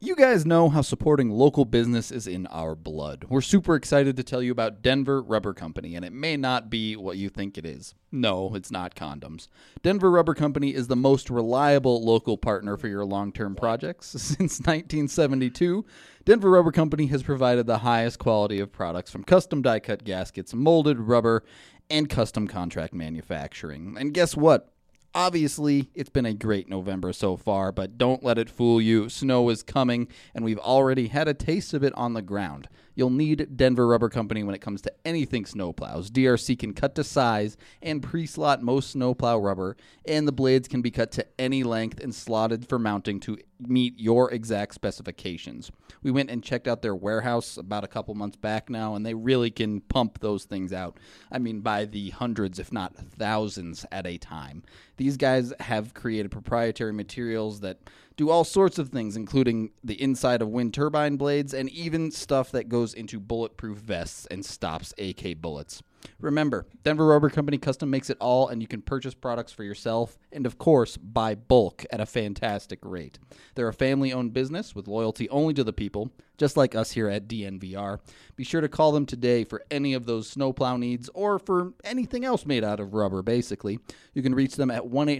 You guys know how supporting local business is in our blood. We're super excited to tell you about Denver Rubber Company, and it may not be what you think it is. No, it's not condoms. Denver Rubber Company is the most reliable local partner for your long-term projects. Since 1972, Denver Rubber Company has provided the highest quality of products from custom die-cut gaskets, molded rubber, and custom contract manufacturing. And guess what? Obviously, it's been a great November so far, but don't let it fool you. Snow is coming, and we've already had a taste of it on the ground. You'll need Denver Rubber Company when it comes to anything snowplows. DRC can cut to size and pre-slot most snowplow rubber, and the blades can be cut to any length and slotted for mounting to meet your exact specifications. We went and checked out their warehouse about a couple months back now, and they really can pump those things out. I mean, by the hundreds, if not thousands at a time. These guys have created proprietary materials that do all sorts of things, including the inside of wind turbine blades and even stuff that goes into bulletproof vests and stops AK bullets. Remember, Denver Rubber Company custom makes it all, and you can purchase products for yourself and, of course, buy bulk at a fantastic rate. They're a family-owned business with loyalty only to the people, just like us here at DNVR. Be sure to call them today for any of those snowplow needs or for anything else made out of rubber, basically. You can reach them at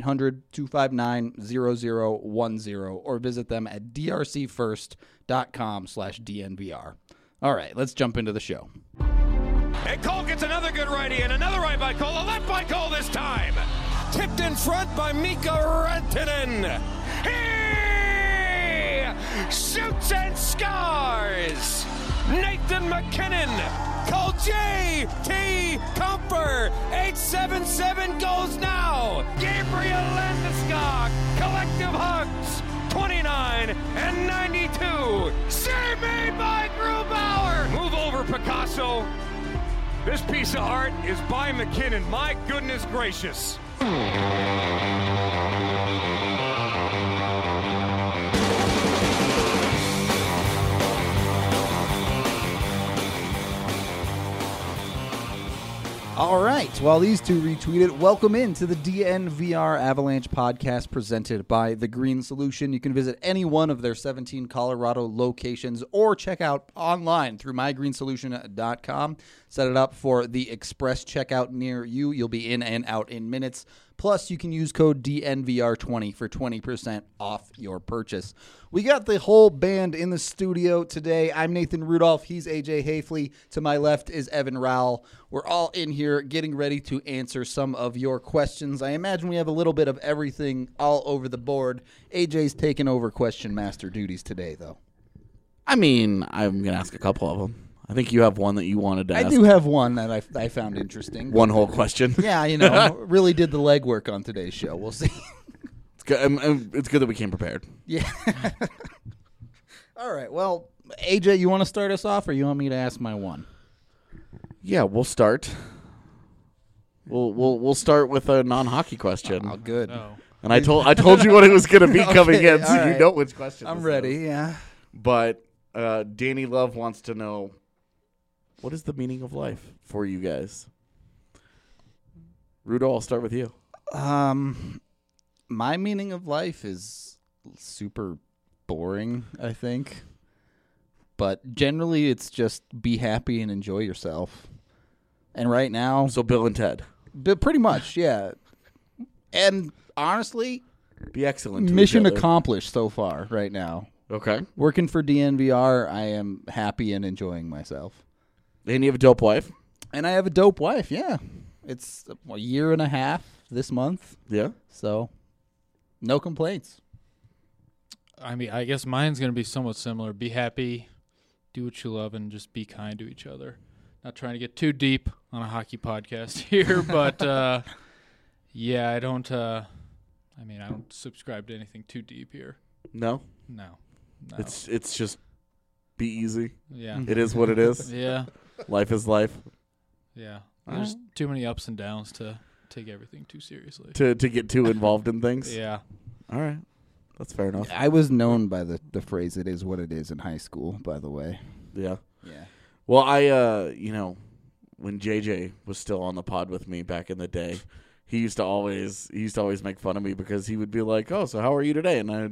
1-800-259-0010 or visit them at drcfirst.com/DNVR. All right, let's jump into the show. And Cole gets another good righty, and another right by Cole, a left by Cole this time. Tipped in front by Mika Rantanen. He shoots and scores. Nathan McKinnon. Cole J.T. Comfer. 877 goes now. Gabriel Landeskog. Collective hugs. 29 and 92. Save made by Grubauer. Move over, Picasso. This piece of art is by McKinnon. My goodness gracious. All right, while these two retweeted, welcome into the DNVR Avalanche podcast presented by The Green Solution. You can visit any one of their 17 Colorado locations or check out online through mygreensolution.com. Set it up for the express checkout near you. You'll be in and out in minutes. Plus, you can use code DNVR20 for 20% off your purchase. We got the whole band in the studio today. I'm Nathan Rudolph. He's AJ Hafley. To my left is Evan Rowell. We're all in here getting ready to answer some of your questions. I imagine we have a little bit of everything all over the board. AJ's taking over question master duties today, though. I mean, I'm going to ask a couple of them. I think you have one that you wanted to ask. I do have one that I found interesting. One whole question. Yeah, you know, really did the legwork on today's show. We'll see. It's good. It's good that we came prepared. Yeah. All right. Well, AJ, you want to start us off, or you want me to ask my one? Yeah, we'll start. We'll start with a non-hockey question. Oh, good. Oh. And I told you what it was going to be coming Okay, in, so all you right. know which question. I'm this ready. is. Yeah. But Danny Love wants to know, what is the meaning of life for you guys? Rudo, I'll start with you. My meaning of life is super boring, I think. But generally, it's just be happy and enjoy yourself. And right now, So Bill and Ted. pretty much, yeah. And honestly, Be excellent to mission each other. accomplished so far right now. Okay. Working for DNVR, I am happy and enjoying myself. And you have a dope wife? And I have a dope wife, yeah. It's a year and a half this month, Yeah. so no complaints. I mean, I guess mine's going to be somewhat similar. Be happy, do what you love, and just be kind to each other. Not trying to get too deep on a hockey podcast here, but yeah, I don't subscribe to anything too deep here. No? No. It's just be easy. Yeah. It is what it is. Yeah. Life is life. Yeah. There's too many ups and downs to take everything too seriously. To get too involved in things. Yeah. All right. That's fair enough. I was known by the phrase "it is what it is" in high school, by the way. Yeah. Yeah. Well, when JJ was still on the pod with me back in the day, he used to always make fun of me because he would be like, "Oh, so how are you today?" And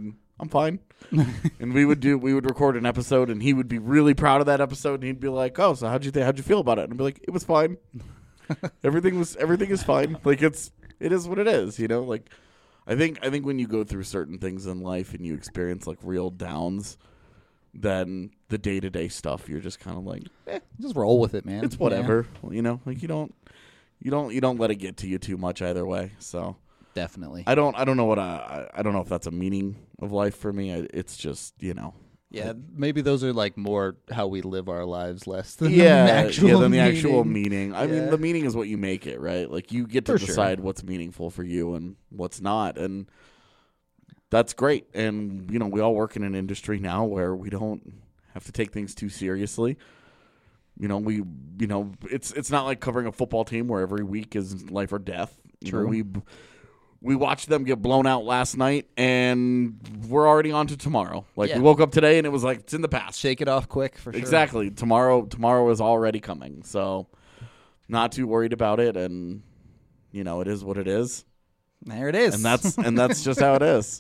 I'm fine. And we would record an episode, and he would be really proud of that episode, and he'd be like, "Oh, so how'd you feel about it?" And I'd be like, "It was fine. Everything is fine. Like it is what it is, you know. Like I think when you go through certain things in life and you experience like real downs, then the day-to-day stuff, you're just kind of like, Just roll with it, man. it's whatever, you know. Like you don't let it get to you too much either way. So Definitely. I don't know I don't know if that's a meaning of life for me. It's just, you know. Yeah, maybe those are like more how we live our lives, less than The the actual meaning. meaning. I mean, the meaning is what you make it, right? Like you get to decide what's meaningful for you and what's not, and that's great. And you know, we all work in an industry now where we don't have to take things too seriously. You know, it's not like covering a football team where every week is life or death. True. You know, we watched them get blown out last night, and we're already on to tomorrow. Like we woke up today, and it was like it's in the past. Shake it off quick for sure. Exactly. Tomorrow is already coming, so not too worried about it. And you know, it is what it is. There it is. And that's just how it is.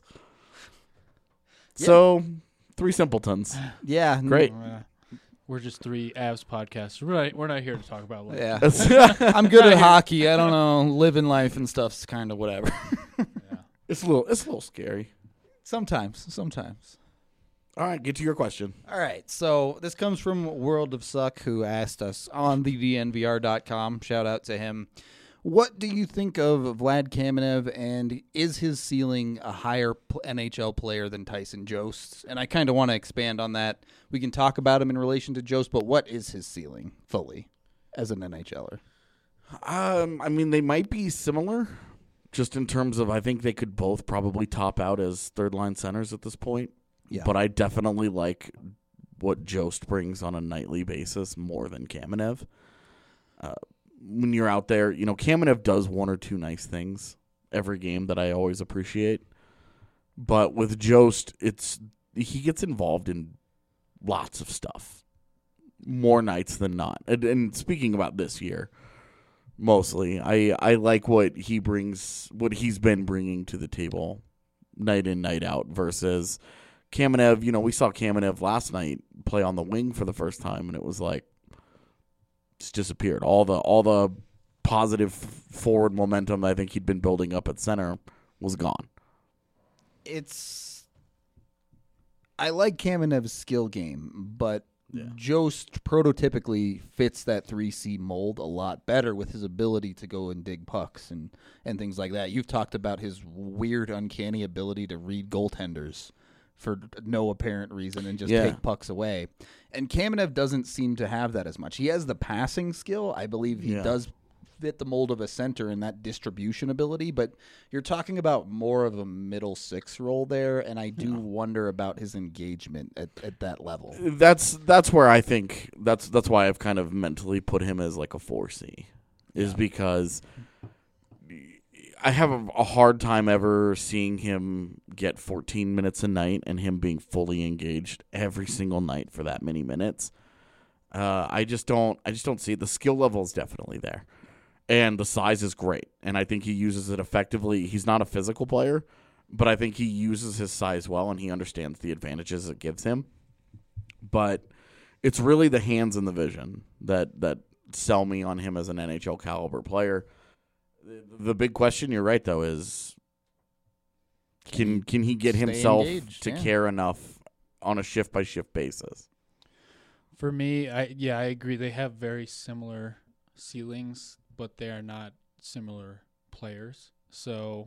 So, three simpletons. Yeah. Great. We're just three Avs podcasts. We're not here to talk about life. Yeah. I'm good at hockey. I don't know. Living life and stuff's kind of whatever. It's a little scary. Sometimes. All right, get to your question. All right. So this comes from World of Suck, who asked us on the DNVR.com. Shout out to him. What do you think of Vlad Kamenev, and is his ceiling a higher NHL player than Tyson Jost? And I kind of want to expand on that. We can talk about him in relation to Jost, but what is his ceiling fully as an NHLer? I mean, they might be similar, just in terms of I think they could both probably top out as third-line centers at this point. Yeah. But I definitely like what Jost brings on a nightly basis more than Kamenev. When you're out there, you know, Kamenev does one or two nice things every game that I always appreciate. But with Jost, he gets involved in lots of stuff, more nights than not. And speaking about this year, mostly, I like what he brings, what he's been bringing to the table night in, night out versus Kamenev. You know, we saw Kamenev last night play on the wing for the first time, and it was like, disappeared. All the positive forward momentum I think he'd been building up at center was gone. I like Kamenev's skill game, but Jost prototypically fits that 3C mold a lot better with his ability to go and dig pucks and things like that. You've talked about his weird, uncanny ability to read goaltenders for no apparent reason and just take pucks away. And Kamenev doesn't seem to have that as much. He has the passing skill. I believe he does fit the mold of a center in that distribution ability, but you're talking about more of a middle six role there, and I do wonder about his engagement at that level. That's where I think that's why I've kind of mentally put him as like a 4C, is because I have a hard time ever seeing him get 14 minutes a night and him being fully engaged every single night for that many minutes. I just don't see it. The skill level is definitely there, and the size is great. And I think he uses it effectively. He's not a physical player, but I think he uses his size well, and he understands the advantages it gives him. But it's really the hands and the vision that sell me on him as an NHL caliber player. The big question, you're right, though, is can he get himself engaged, to care enough on a shift-by-shift basis? For me, I agree. They have very similar ceilings, but they are not similar players. So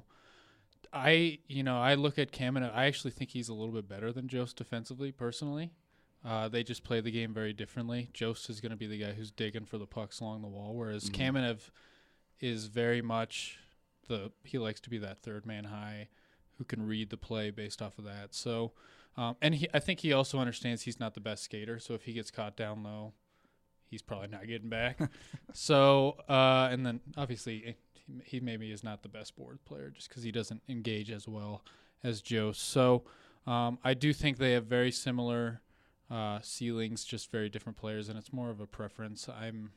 I look at Kamenev. I actually think he's a little bit better than Jost defensively, personally. They just play the game very differently. Jost is going to be the guy who's digging for the pucks along the wall, whereas Kamenev is very much he likes to be that third man high who can read the play based off of that. So, I think he also understands he's not the best skater. So if he gets caught down low, he's probably not getting back. So, and then obviously he maybe is not the best board player just because he doesn't engage as well as Jost. So, I do think they have very similar ceilings, just very different players, and it's more of a preference.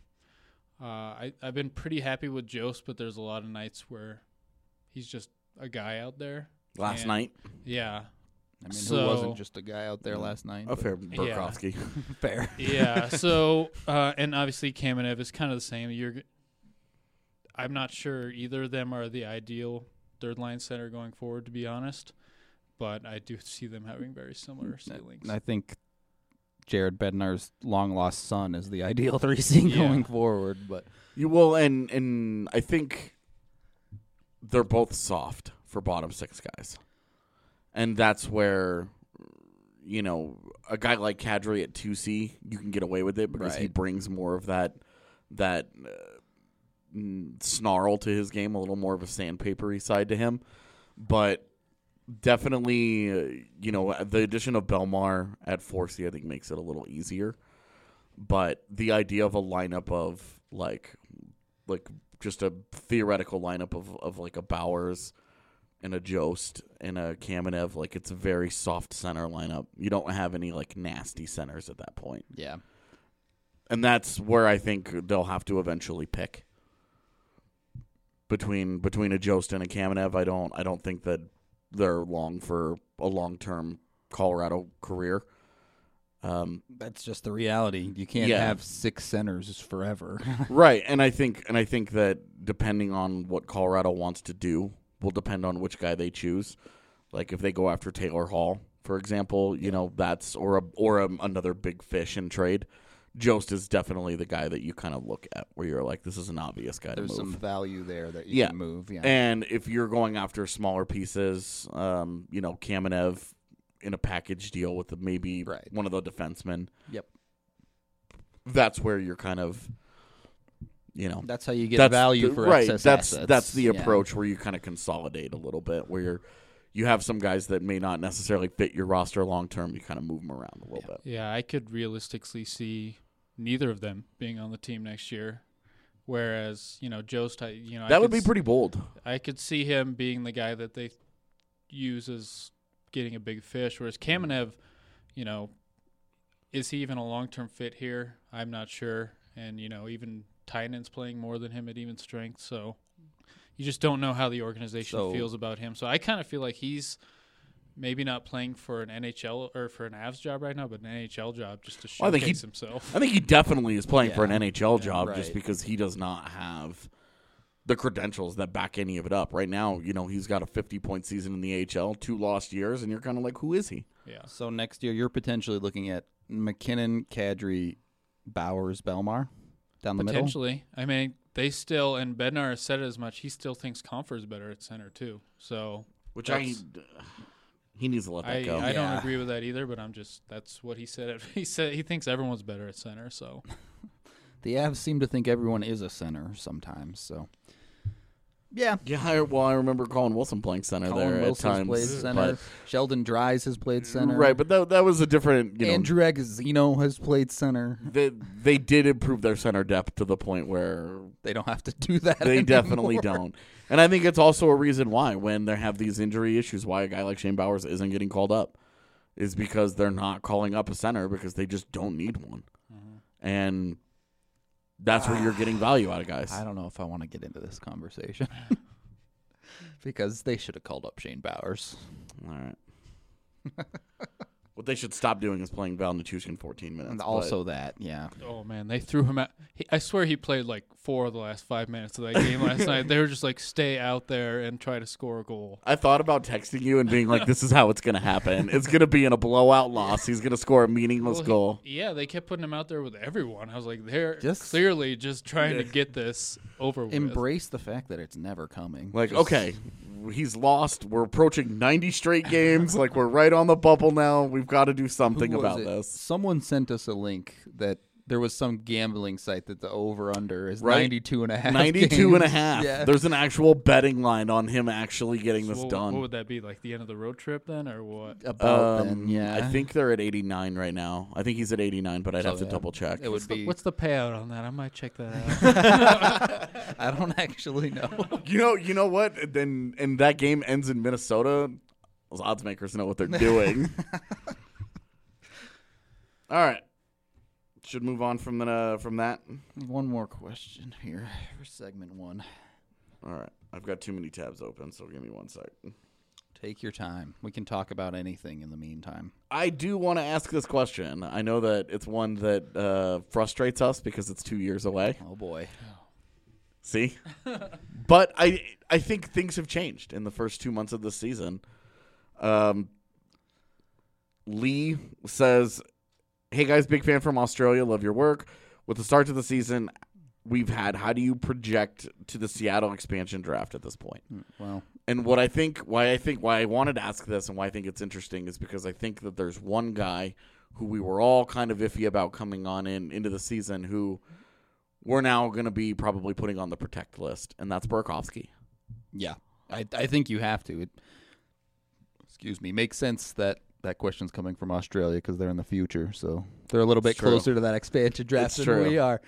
I've been pretty happy with Jost, but there's a lot of nights where he's just a guy out there. Last night? Yeah. I mean, So- who wasn't just a guy out there last night? A fair Burakovsky. Fair. Yeah. So, and obviously Kamenev is kind of the same. I'm not sure either of them are the ideal third line center going forward, to be honest. But I do see them having very similar ceilings. I think Jared Bednar's long lost son is the ideal 3C going forward. But and I think they're both soft for bottom six guys. And that's where, a guy like Kadri at 2C, you can get away with it because he Right. brings more of that snarl to his game, a little more of a sandpapery side to him. But definitely, the addition of Belmar at 4C, I think, makes it a little easier. But the idea of a lineup of, like just a theoretical lineup of like a Bowers and a Jost and a Kamenev, like it's a very soft center lineup. You don't have any like nasty centers at that point. yeah. And that's where I think they'll have to eventually pick. Between a Jost and a Kamenev, I don't think that they're long for a long-term Colorado career. That's just the reality. You can't have 6 centers forever. Right, and I think that depending on what Colorado wants to do will depend on which guy they choose. Like if they go after Taylor Hall, for example, that's or another big fish in trade. Jost is definitely the guy that you kind of look at where you're like, this is an obvious guy There's to move. some value there that you can move. Yeah. And if you're going after smaller pieces, Kamenev in a package deal with maybe one of the defensemen. Yep. That's where you're kind of, That's how you get value for excess assets. That's the approach where you kind of consolidate a little bit, where you have some guys that may not necessarily fit your roster long term. You kind of move them around a little bit. Yeah, I could realistically see neither of them being on the team next year. Whereas, Jost, that would be pretty bold. I could see him being the guy that they use as getting a big fish. Whereas Kamenev, is he even a long-term fit here? I'm not sure. And, even Tynan's playing more than him at even strength. So you just don't know how the organization feels about him. So I kind of feel like he's maybe not playing for an NHL or for an Avs job right now, but an NHL job just to showcase himself. I think he definitely is playing for an NHL job right. just because he does not have the credentials that back any of it up. Right now, he's got a 50-point season in the AHL, 2 lost years, and you're kind of like, who is he? Yeah. So next year, you're potentially looking at McKinnon, Kadri, Bowers, Belmar down the middle? Potentially. I mean, they still, and Bednar said it as much, he still thinks Comfer is better at center, too. So, he needs to let that go. I don't agree with that either, but that's what he said. He said he thinks everyone's better at center, so. The Avs seem to think everyone is a center sometimes, so. Yeah. Yeah, I remember Colin Wilson playing center there at times. Played center. Sheldon Dries has played center. Right, but that was a different, Andrew Agozzino has played center. They did improve their center depth to the point where they don't have to do that They anymore. definitely don't. And I think it's also a reason why, when they have these injury issues, why a guy like Shane Bowers isn't getting called up, is because they're not calling up a center because they just don't need one. Mm-hmm. And that's where you're getting value out of guys. I don't know if I want to get into this conversation. Because they should have called up Shane Bowers. All right. What they should stop doing is playing Val Nichushkin 14 minutes. And also that, yeah. Oh, man, they threw him out. I swear he played like 4 of the last 5 minutes of that game last night. They were just like, stay out there and try to score a goal. I thought about texting you and being like, this is how it's going to happen. It's going to be in a blowout loss. He's going to score a meaningless goal. Yeah, they kept putting him out there with everyone. I was like, they're clearly just trying to get this over with. Embrace the fact that it's never coming. Like, okay, he's lost. We're approaching 90 straight games. Like, we're right on the bubble now. We've got to do something about this. Someone sent us a link that there was some gambling site that the over-under is Right. 92 and a half 92 and a half. Yeah. There's an actual betting line on him actually getting this done. What would that be, like the end of the road trip then, or what? About then, yeah. I think they're at 89 right now. I think he's at 89, but I'd have to double check. It would be. What's the payout on that? I might check that out. I don't actually know. You know what? Then and that game ends in Minnesota. Those odds makers know what they're doing. All right. Should move on from that. One more question here for segment 1. All right. I've got too many tabs open, so give me 1 sec. Take your time. We can talk about anything in the meantime. I do want to ask this question. I know that it's one that frustrates us because it's 2 years away. Oh, boy. See? But I think things have changed in the first 2 months of the season. Lee says, hey, guys, big fan from Australia. Love your work. With the start to the season we've had, how do you project to the Seattle expansion draft at this point? Well, and why I wanted to ask this and why I think it's interesting is because I think that there's one guy who we were all kind of iffy about coming on into the season who we're now going to be probably putting on the protect list, and that's Burakovsky. yeah, I think you have to. It makes sense that question's coming from Australia because they're in the future, so they're a little bit closer to that expansion draft than we are.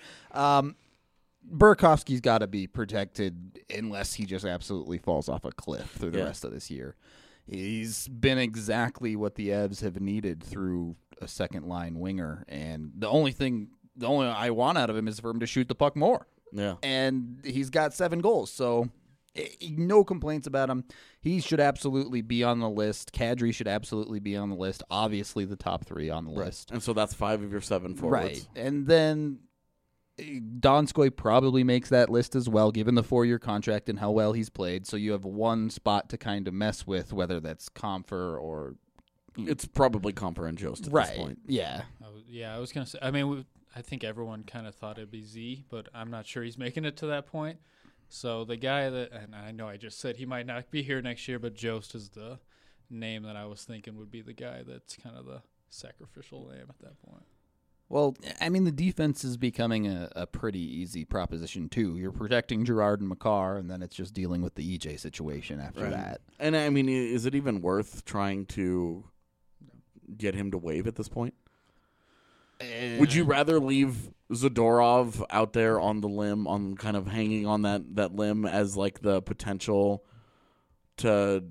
Burakovsky's got to be protected unless he just absolutely falls off a cliff through the rest of this year. He's been exactly what the Avs have needed through a second-line winger, and the only I want out of him is for him to shoot the puck more. Yeah. And he's got 7 goals, so no complaints about him. He should absolutely be on the list. Kadri should absolutely be on the list. Obviously, the top 3 on the list. And so that's 5 of your 7 forwards. Right. And then Donskoy probably makes that list as well, given the 4-year contract and how well he's played. So you have one spot to kind of mess with, whether that's Compher or... It's probably Compher and Jost at this point. Yeah. I was going to say, I mean, I think everyone kind of thought it'd be Z, but I'm not sure he's making it to that point. So the guy that, and I know I just said he might not be here next year, but Jost is the name that I was thinking would be the guy that's kind of the sacrificial lamb at that point. Well, I mean, the defense is becoming a pretty easy proposition, too. You're protecting Girard and Makar, and then it's just dealing with the EJ situation after that. And, I mean, is it even worth trying to get him to waive at this point? Would you rather leave Zadorov out there on the limb, on kind of hanging on that limb as like the potential to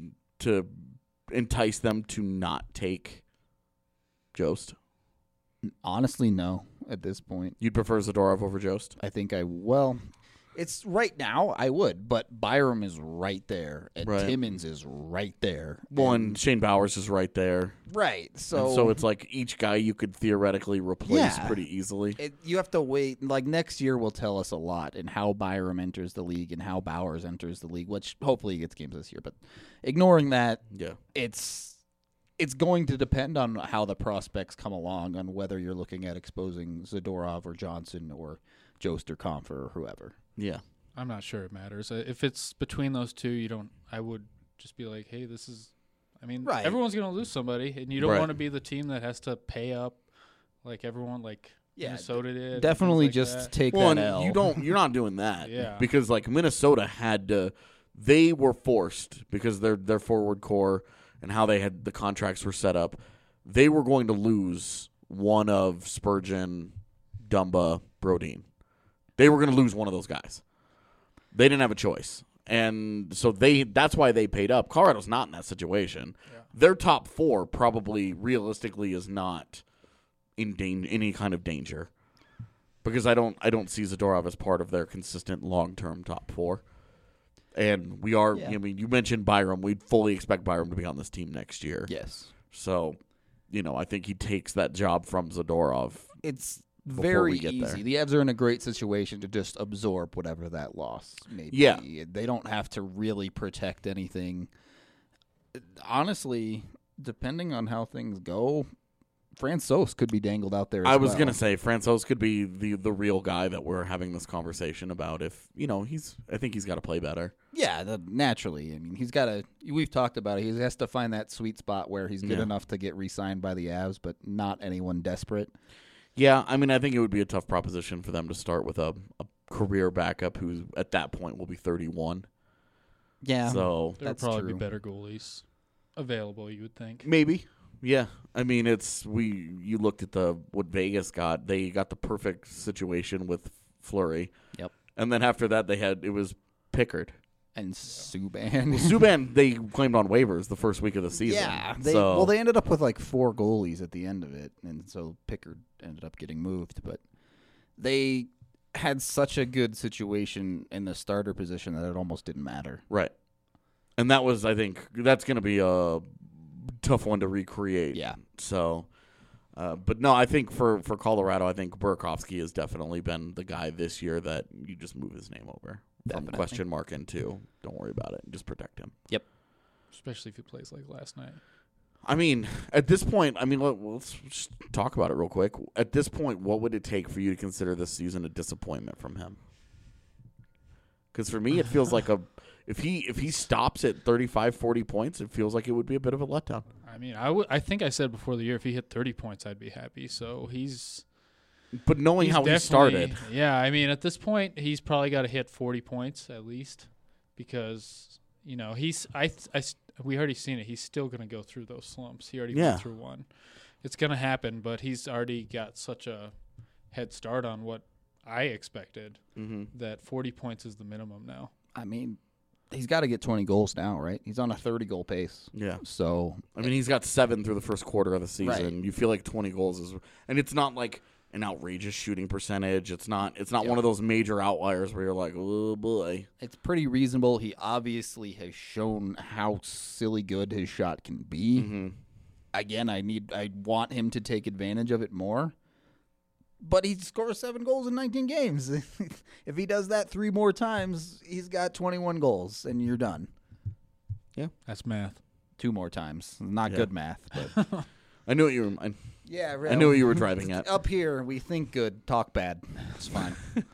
entice them to not take Jost? Honestly, no, at this point. You'd prefer Zadorov over Jost? I think it's right now, I would, but Byram is right there, and Timmins is right there. Well, and Shane Bowers is right there. Right. So it's like each guy you could theoretically replace pretty easily. You have to wait. Like, next year will tell us a lot in how Byram enters the league and how Bowers enters the league, which hopefully he gets games this year. But ignoring that, it's going to depend on how the prospects come along, on whether you're looking at exposing Zadorov or Johnson or Jost or Compher or whoever. Yeah. I'm not sure it matters. If it's between those two, I would just be like, hey, this is, I mean, everyone's going to lose somebody, and you don't want to be the team that has to pay up like everyone, like Minnesota did. Definitely like just that. take that L. You're not doing that. Yeah. Because like Minnesota they were forced because their forward core and how the contracts were set up, they were going to lose one of Spurgeon, Dumba, Brodin. They were going to lose one of those guys. They didn't have a choice. And so that's why they paid up. Colorado's not in that situation. Yeah. Their top 4 probably realistically is not in any kind of danger. Because I don't see Zadorov as part of their consistent long-term top 4. And we are, I mean, you mentioned Byram. We'd fully expect Byram to be on this team next year. Yes. So, I think he takes that job from Zadorov. It's very easy. The Avs are in a great situation to just absorb whatever that loss may be. Yeah. They don't have to really protect anything. Honestly, depending on how things go, Francouz could be dangled out there as well. I was going to say, Francouz could be the real guy that we're having this conversation about if, I think he's got to play better. Yeah, naturally. I mean, we've talked about it. He has to find that sweet spot where he's good enough to get re-signed by the Avs, but not anyone desperate. Yeah, I mean, I think it would be a tough proposition for them to start with a career backup who, at that point, will be 31. Yeah, so there would probably be better goalies available, you would think. Maybe, yeah. I mean, you looked at what Vegas got. They got the perfect situation with Fleury. Yep. And then after that, it was Pickard. And Subban. Subban, they claimed on waivers the first week of the season. Yeah. They ended up with like 4 goalies at the end of it, and so Pickard ended up getting moved. But they had such a good situation in the starter position that it almost didn't matter. Right. And that was, I think, that's going to be a tough one to recreate. Yeah. So, but no, I think for Colorado, I think Burakovsky has definitely been the guy this year that you just move his name over from Definitely. question mark into. Don't worry about it. Just protect him. Yep. Especially if he plays like last night. I mean, at this point, let's just talk about it real quick. At this point, what would it take for you to consider this season a disappointment from him? Because for me, it feels like if he stops at 35, 40 points, it feels like it would be a bit of a letdown. I mean, I think I said before the year if he hit 30 points, I'd be happy. So But knowing he's how he started, yeah. I mean, at this point, he's probably got to hit 40 points at least because we already seen it. He's still going to go through those slumps. He already went through one. It's going to happen, but he's already got such a head start on what I expected that 40 points is the minimum now. I mean, he's got to get 20 goals now, right? He's on a 30-goal pace. Yeah. So, I mean, he's got 7 through the first quarter of the season. Right. You feel like 20 goals is, and it's not like an outrageous shooting percentage. It's not one of those major outliers where you're like, oh boy. it's pretty reasonable. He obviously has shown how silly good his shot can be. Again, I want him to take advantage of it more. But he scores 7 goals in 19 games. If he does that 3 more times, he's got 21 goals, and you're done. Yeah. That's math. 2 more times. Not good math, but I knew what you were. yeah, I knew what you were driving at. Up here, we think good, talk bad. It's fine.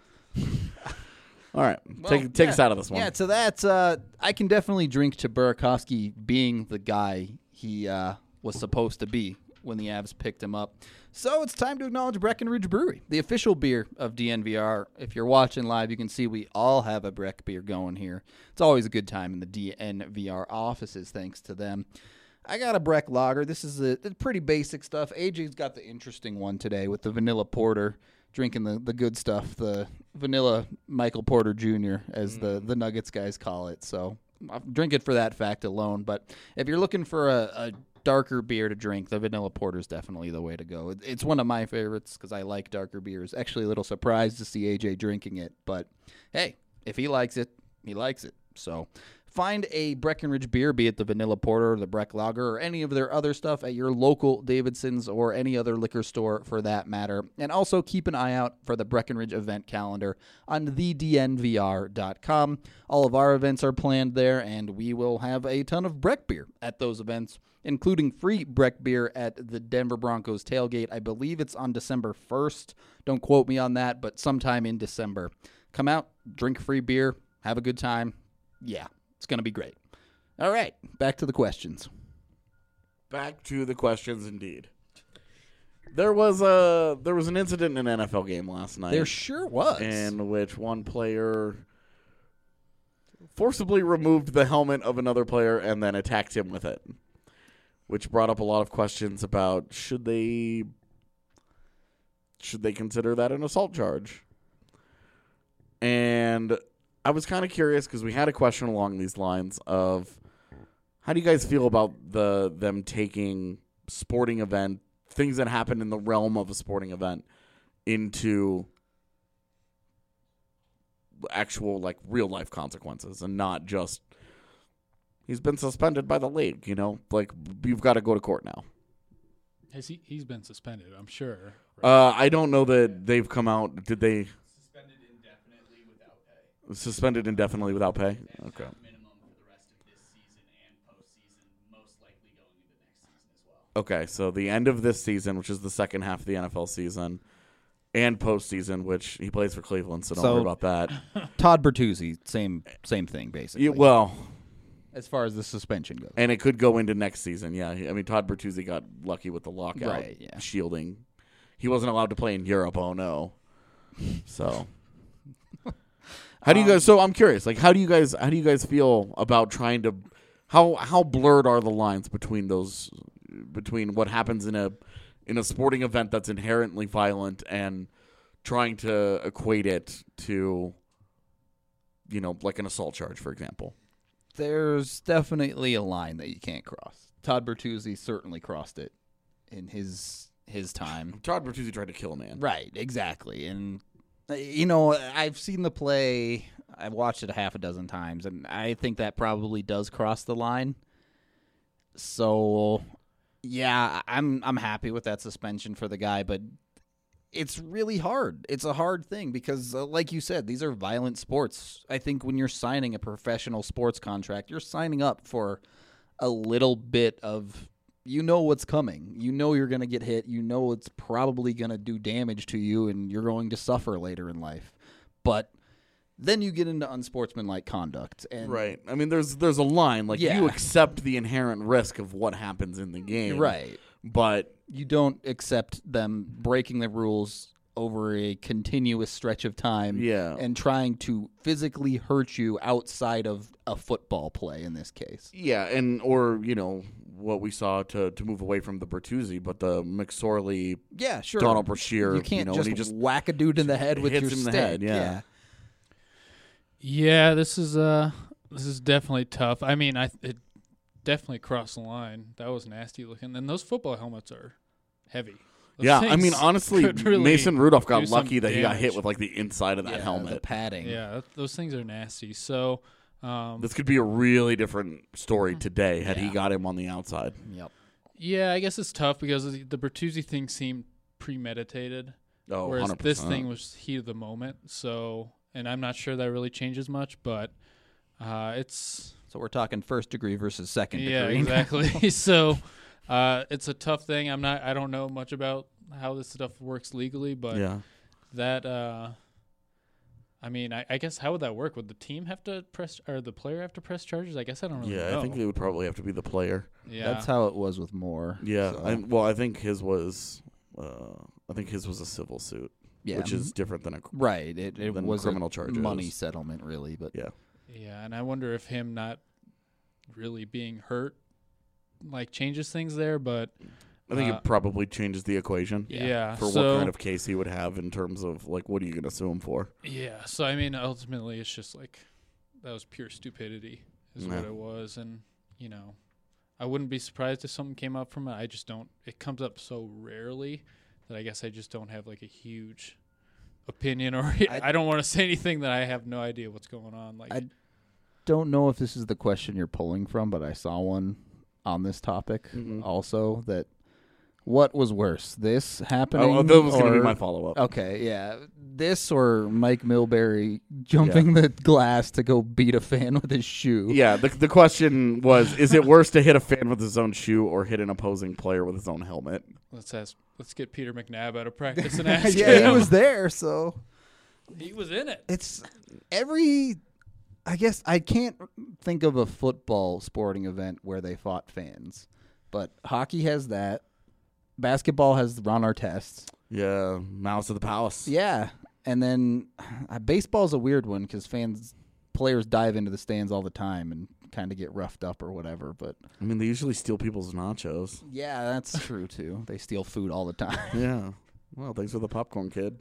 All right, Well, take us out of this one. Yeah, so that's I can definitely drink to Burakovsky being the guy he was supposed to be when the Avs picked him up. So it's time to acknowledge Breckenridge Brewery, the official beer of DNVR. If you're watching live, you can see we all have a Breck beer going here. It's always a good time in the DNVR offices, thanks to them. I got a Breck Lager. This is the pretty basic stuff. AJ's got the interesting one today with the vanilla porter, drinking the good stuff, the vanilla Michael Porter Jr., as the Nuggets guys call it. So I'll drink it for that fact alone. But if you're looking for a darker beer to drink, the vanilla porter is definitely the way to go. It's one of my favorites because I like darker beers. Actually, a little surprised to see AJ drinking it. But hey, if he likes it, he likes it. So find a Breckenridge beer, be it the vanilla porter or the Breck Lager or any of their other stuff at your local Davidson's or any other liquor store for that matter. And also keep an eye out for the Breckenridge event calendar on thednvr.com. All of our events are planned there, and we will have a ton of Breck beer at those events, including free Breck beer at the Denver Broncos tailgate. I believe it's on December 1st. Don't quote me on that, but sometime in December. Come out, drink free beer, have a good time. Yeah. It's going to be great. All right, back to the questions. Back to the questions, indeed. There was an incident in an NFL game last night. There sure was. In which one player forcibly removed the helmet of another player and then attacked him with it, which brought up a lot of questions about should they consider that an assault charge. And I was kind of curious because we had a question along these lines of how do you guys feel about them taking sporting event, things that happen in the realm of a sporting event, into actual like real life consequences and not just he's been suspended by the league, like you've got to go to court now. He's been suspended, I'm sure. I don't know that they've come out. Did they? Suspended indefinitely without pay? Okay. Minimum for the rest of this season and postseason, most likely going into next season as well. Okay, so the end of this season, which is the second half of the NFL season, and postseason, which he plays for Cleveland, so don't worry about that. Todd Bertuzzi, same thing, basically. As far as the suspension goes. And it could go into next season, yeah. I mean, Todd Bertuzzi got lucky with the lockout shielding. He wasn't allowed to play in Europe, oh no. So... How do you guys? So I'm curious. Like, how do you guys feel about trying to? How blurred are the lines between what happens in a sporting event that's inherently violent and trying to equate it to, like an assault charge, for example? There's definitely a line that you can't cross. Todd Bertuzzi certainly crossed it in his time. Todd Bertuzzi tried to kill a man. Right, exactly, and. I've seen the play. I've watched it a half a dozen times, and I think that probably does cross the line. So, yeah, I'm happy with that suspension for the guy, but it's really hard. It's a hard thing because, like you said, these are violent sports. I think when you're signing a professional sports contract, you're signing up for a little bit of, you know what's coming. You know you're going to get hit. You know it's probably going to do damage to you, and you're going to suffer later in life. But then you get into unsportsmanlike conduct. And Right. I mean, there's a line. Like, Yeah. you accept the inherent risk of what happens in the game. Right. But You don't accept them breaking the rules over a continuous stretch of time Yeah. and trying to physically hurt you outside of a football play in this case. yeah, and or, what we saw to move away from the Bertuzzi, but the McSorley, Yeah, sure. Donald Brashear, You can't when just, he just whack a dude in the head with hits your him in the stick. head, yeah. Yeah, this is definitely tough. I mean, it definitely crossed the line. That was nasty looking. And those football helmets are heavy. Those Yeah, I things mean, honestly, could really Mason Rudolph got do some lucky that he got hit damage. with like the inside of that The helmet. padding. Yeah, those things are nasty. So, This could be a really different story today had he Yeah. got him on the outside. Yep. yeah, I guess it's tough because the Bertuzzi thing seemed premeditated, Oh, whereas 100%. this thing was heat of the moment. So, and I'm not sure that really changes much, but it's So we're talking first degree versus second degree. yeah, exactly. So, it's a tough thing. I don't know much about how this stuff works legally, but Yeah. that I mean, I guess how would that work? Would the team have to press, or the player have to press charges? I guess I don't really know. Yeah, I think it would probably have to be the player. yeah. That's how it was with Moore. Yeah, So, I think his was a civil suit, yeah. which is different than a right. It than was criminal a charges. money settlement, really. But yeah. Yeah, and I wonder if him not really being hurt like changes things there, but I think Uh, it probably changes the equation yeah. for so, what kind of case he would have in terms of like what are you going to sue him for? Yeah, so I mean, ultimately, it's just like that was pure stupidity, is what Yeah. it was, and I wouldn't be surprised if something came up from it. I just don't. It comes up so rarely that I guess I just don't have like a huge opinion, or I don't want to say anything that I have no idea what's going on. Like, I don't know if this is the question you're pulling from, but I saw one on this topic also that what was worse, this happening? Oh, that was going to be or- my follow up. Okay, yeah. This or Mike Milbury jumping the glass to go beat a fan with his shoe. Yeah, the question was: is it worse to hit a fan with his own shoe or hit an opposing player with his own helmet? let's get Peter McNabb out of practice and ask Yeah, him. he was there, so He was in it. it's I guess I can't think of a football sporting event where they fought fans. But hockey has that. Basketball has Ron Artest. Yeah, Mouse of the Palace. Yeah. And then baseball's a weird one because players dive into the stands all the time and kind of get roughed up or whatever. But I mean, they usually steal people's nachos. yeah, that's true too. They steal food all the time. Yeah. Well, thanks for the popcorn, kid.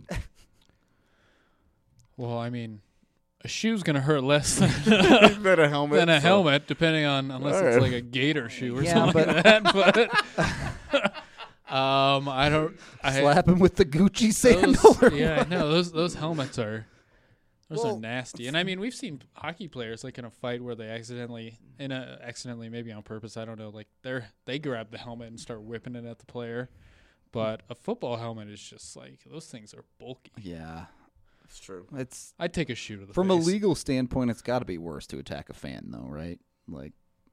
Well, I mean, a shoe's gonna hurt less than Than a helmet. than a so- helmet, depending on unless it's Alright. like a gator shoe or Yeah, something but- like that. But I don't. Slap him with the Gucci sandal. Those, yeah, no, those helmets are Well, nasty. And I mean, we've seen hockey players like in a fight where they accidentally maybe on purpose, I don't know, like they grab the helmet and start whipping it at the player. But a football helmet is just like those things are bulky. Yeah. It's true. It's I'd take a shoe to the from a face. legal standpoint, it's got to be worse to attack a fan, though, right? Like,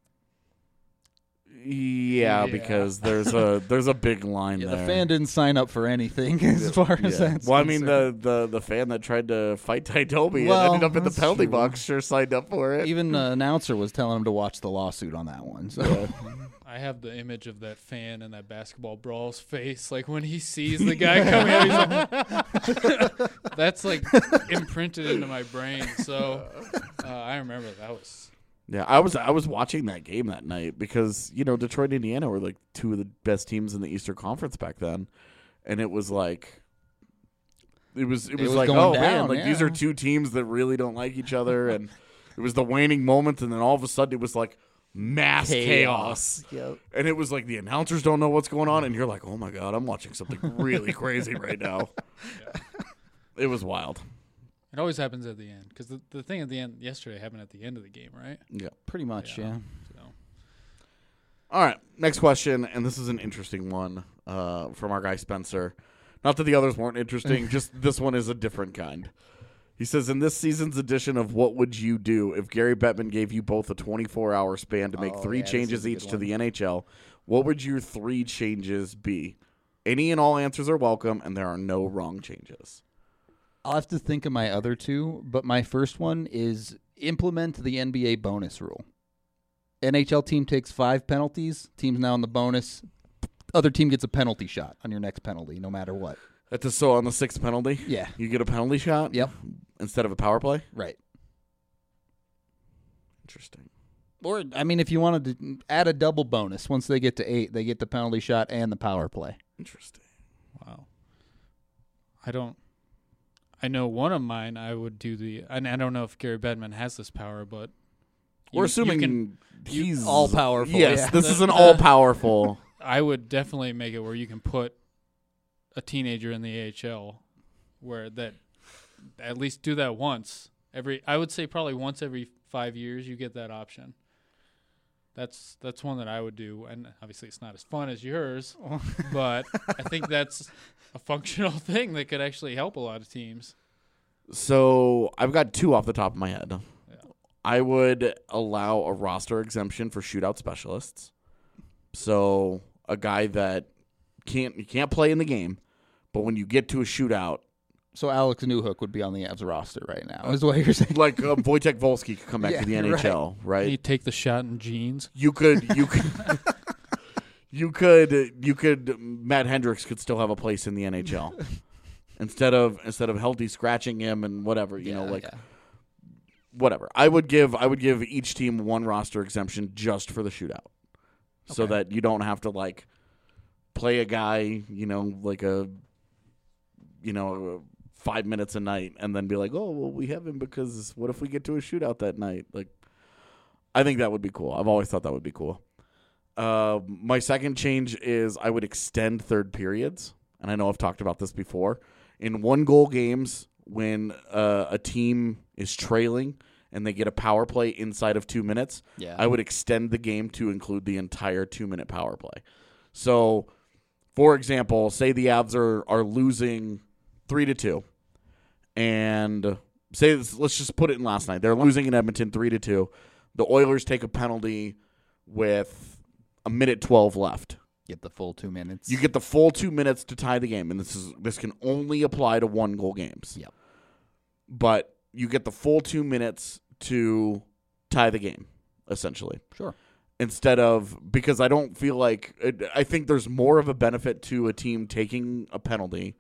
Yeah, Yeah. because there's a big line yeah, there. the fan didn't sign up for anything as far as Yeah. that's Well, I mean, concerned. the fan that tried to fight Ty Doby Well, and ended up in the that's penalty true. box sure signed up for it. Even the announcer was telling him to watch the lawsuit on that one. So I have the image of that fan and that basketball brawl's face, like when he sees the guy coming out. He's like, that's like imprinted into my brain. So I remember that was. Yeah, I was watching that game that night because Detroit, Indiana were like two of the best teams in the Eastern Conference back then, and it was like. It was was like, going oh down, man, like these yeah. are two teams that really don't like each other, and it was the waning moments, and then all of a sudden it was like mass chaos. Yep. And it was like the announcers don't know what's going on, and you're like, oh my god, I'm watching something really crazy right now. It was wild. It always happens at the end because the thing at the end yesterday happened at the end of the game, right? Yeah. Pretty much, yeah. So All right, next question, and this is an interesting one from our guy Spencer. Not that the others weren't interesting, just this one is a different kind. He says, in this season's edition of What Would You Do, if Gary Bettman gave you both a 24-hour span to make three changes each to the NHL, what would your 3 changes be? Any and all answers are welcome, and there are no wrong changes. I'll have to think of my other 2, but my first one is implement the NBA bonus rule. NHL team takes 5 penalties. Team's now in the bonus. Other team gets a penalty shot on your next penalty, no matter what. That's so on the 6th penalty? Yeah. You get a penalty shot? Yep. Instead of a power play? Right. Interesting. Or, I mean, if you wanted to add a double bonus, once they get to 8, they get the penalty shot and the power play. Interesting. wow. I know one of mine I would do and I don't know if Gary Bettman has this power, but We're you assuming can- he's all-powerful, Yes, yeah. this is an all-powerful. I would definitely make it where you can put a teenager in the AHL where that at least do that once. I would say probably once every 5 years you get that option. That's one that I would do, and obviously it's not as fun as yours, but I think that's a functional thing that could actually help a lot of teams. So I've got 2 off the top of my head. Yeah. I would allow a roster exemption for shootout specialists. So a guy that can't play in the game, but when you get to a shootout, So Alex Newhook would be on the Avs roster right now, is what you're saying. like Wojtek Volsky could come back to the Yeah, NHL, right? Can you take the shot in jeans? You could Matt Hendricks could still have a place in the NHL instead of Helty scratching him and whatever, whatever. I would give each team 1 roster exemption just for the shootout, so that you don't have to like play a guy, like 5 minutes a night and then be like, oh well, we have him because what if we get to a shootout that night? Like, I think that would be cool. I've always thought that would be cool. My second change is I would extend third periods, and I know I've talked about this before. In 1-goal games, when a team is trailing and they get a power play inside of 2 minutes, I would extend the game to include the entire 2-minute power play. So, for example, say the Avs are losing 3-2, and say let's just put it in last night. They're losing in Edmonton 3-2. The Oilers take a penalty with 1:12 left. Get the full 2 minutes. You get the full 2 minutes to tie the game, and this can only apply to 1-goal games. Yep. But you get the full 2 minutes to tie the game, essentially. Sure. Instead of, because I don't feel like I think there's more of a benefit to a team taking a penalty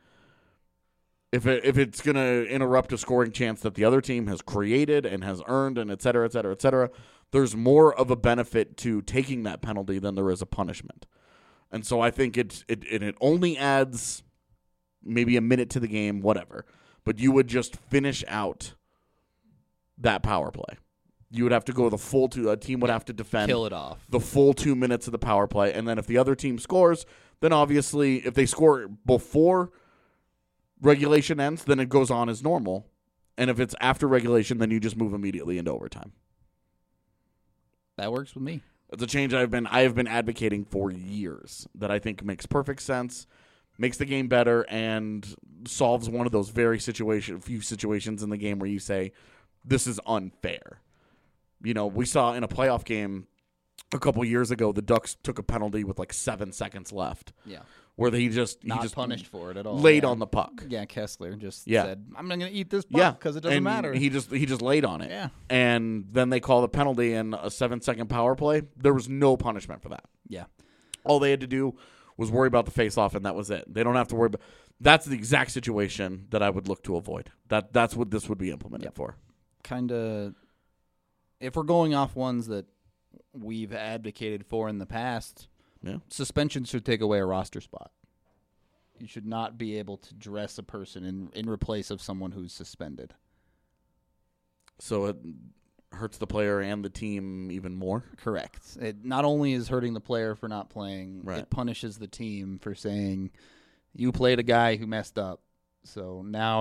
if it's going to interrupt a scoring chance that the other team has created and has earned, and et cetera, et cetera, et cetera. There's more of a benefit to taking that penalty than there is a punishment. And so I think it only adds maybe a minute to the game, whatever. But you would just finish out that power play. You would have to go the full a team would have to defend. Kill it off. The full 2 minutes of the power play. And then if the other team scores, then obviously if they score before regulation ends, then it goes on as normal. And if it's after regulation, then you just move immediately into overtime. That works with me. It's a change I have been advocating for years that I think makes perfect sense, makes the game better, and solves one of those few situations in the game where you say, this is unfair. We saw in a playoff game a couple years ago, the Ducks took a penalty with like 7 seconds left. Yeah. Where he just punished for it at all. Laid on the puck. Yeah, Kessler just said, I'm going to eat this puck Yeah, because it doesn't matter. He just laid on it. Yeah. And then they call the penalty in a 7-second power play. There was no punishment for that. Yeah. All they had to do was worry about the face-off, and that was it. They don't have to worry about. That's the exact situation that I would look to avoid. That's what this would be implemented for. Kind of, if we're going off ones that we've advocated for in the past, suspension should take away a roster spot. You should not be able to dress a person in replace of someone who's suspended. So it hurts the player and the team even more? Correct. It not only is hurting the player for not playing, Right. it punishes the team for saying, you played a guy who messed up. So now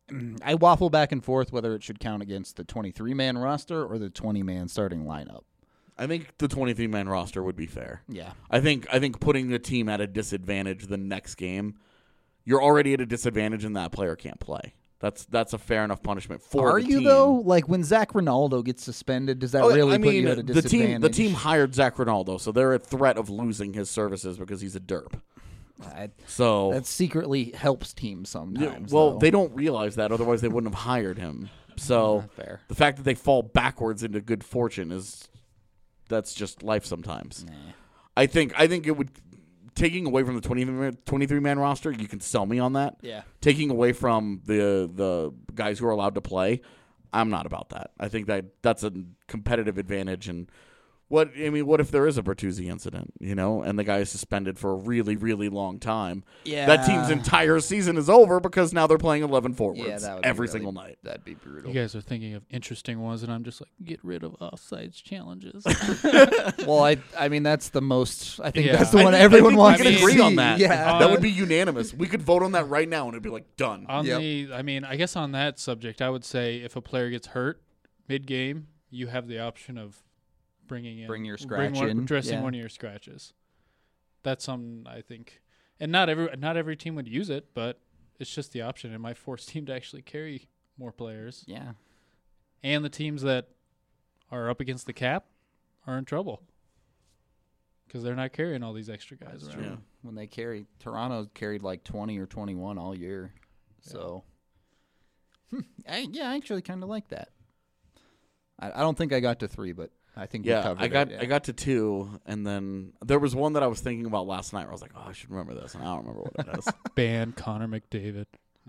I waffle back and forth whether it should count against the 23-man roster or the 20-man starting lineup. I think the 23-man roster would be fair. Yeah. I think putting the team at a disadvantage the next game, you're already at a disadvantage and that player can't play. That's a fair enough punishment for Are the you team. though? Like when Zach Ronaldo gets suspended, does that really put you at a disadvantage? The team hired Zach Ronaldo, so they're at threat of losing his services because he's a derp. So that secretly helps teams sometimes. well, though. they don't realize that, otherwise they wouldn't have hired him. So fair. the fact that they fall backwards into good fortune that's just life sometimes. Nah. I think it would, taking away from the 23-man roster, you can sell me on that. Yeah. Taking away from the guys who are allowed to play, I'm not about that. I think that's a competitive advantage. And what if there is a Bertuzzi incident, and the guy is suspended for a really, really long time? Yeah. That team's entire season is over because now they're playing 11 forwards that would every be single night. That'd be brutal. You guys are thinking of interesting ones, and I'm just like, get rid of offsides challenges. Well, I mean that's the most. I think Yeah. that's the I one think everyone we wants can to agree see. on that. Yeah. That would be unanimous. We could vote on that right now, and it'd be like done. I guess on that subject, I would say if a player gets hurt mid-game, you have the option of bring your scratch in, addressing one of your scratches. That's something I think, and not every team would use it, but it's just the option. It might force team to actually carry more players. Yeah. And the teams that are up against the cap are in trouble because they're not carrying all these extra guys around. Yeah. When they Toronto carried like 20 or 21 all year. So, I actually kind of like that. I don't think I got to 3, but I think we covered it. I got to 2, and then there was one that I was thinking about last night where I was like, oh, I should remember this, and I don't remember what it is. Ban Connor McDavid.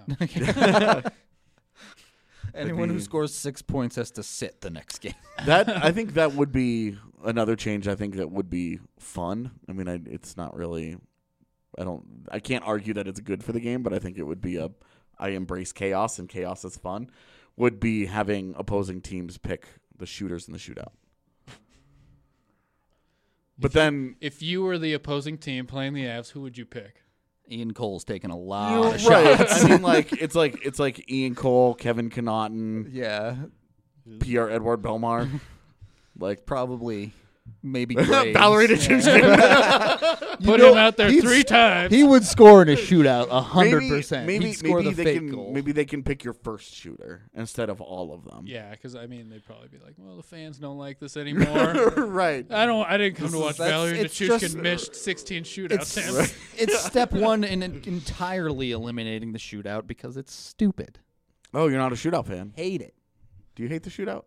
Anyone who scores 6 points has to sit the next game. I think that would be another change. I think that would be fun. I mean, it's not really. I can't argue that it's good for the game, but I think it would be I embrace chaos, and chaos is fun. Would be having opposing teams pick the shooters in the shootout. But then, if you were the opposing team playing the Avs, who would you pick? Ian Cole's taking a lot of right? shots. I mean, it's like Ian Cole, Kevin Connaughton, Yeah. Pierre-Edouard Bellemare, like Probably. Maybe Graves. Valerie Nichushkin. Put him out there 3 times. He would score in a shootout 100%. He'd score the they fake can goal. maybe they can pick your first shooter instead of all of them. Yeah, because they'd probably be like, "Well, the fans don't like this anymore." Right. I didn't come to watch Valerie it's Nichushkin just- missed 16 shootouts. It's step one in entirely eliminating the shootout because it's stupid. Oh, you're not a shootout fan. Hate it. Do you hate the shootout?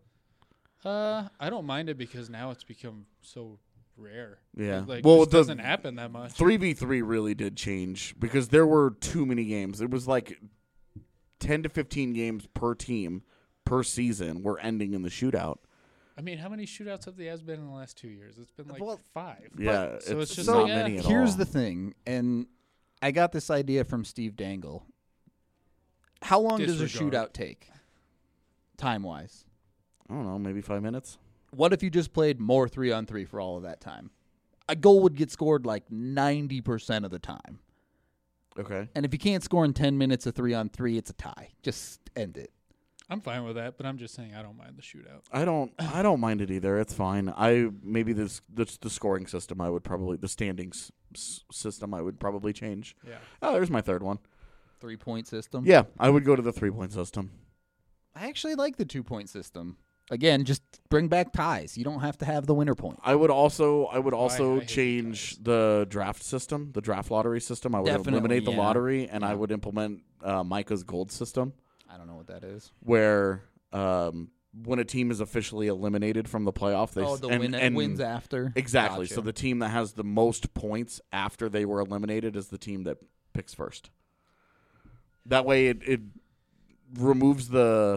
I don't mind it because now it's become so rare. Yeah. Like, Well, it doesn't happen that much. 3v3 really did change because there were too many games. It was like 10 to 15 games per team per season were ending in the shootout. I mean, how many shootouts have the Avs been in the last 2 years? It's been like 5. Yeah, so it's just not like, many at all. Here's the thing, and I got this idea from Steve Dangle. How long does a Disregard. shootout take, time-wise? I don't know, maybe 5 minutes. What if you just played more 3-on-3 for all of that time? A goal would get scored like 90% of the time. Okay. And if you can't score in 10 minutes of 3-on-3, it's a tie. Just end it. I'm fine with that, but I'm just saying I don't mind the shootout. I don't mind it either. It's fine. Maybe the scoring system I would probably the standings system I would probably change. Yeah. Oh, there's my third one. 3-point system. Yeah, I would go to the 3-point system. I actually like the 2-point system. Again, just bring back ties. You don't have to have the winner point. I would also I hate change ties. the draft system, the draft lottery system. I would Definitely, eliminate the yeah. lottery, and I Yeah. would implement Micah's gold system, I don't know what that is. where when a team is officially eliminated from the playoff, they wins after. Exactly. Gotcha. So the team that has the most points after they were eliminated is the team that picks first. That way, it removes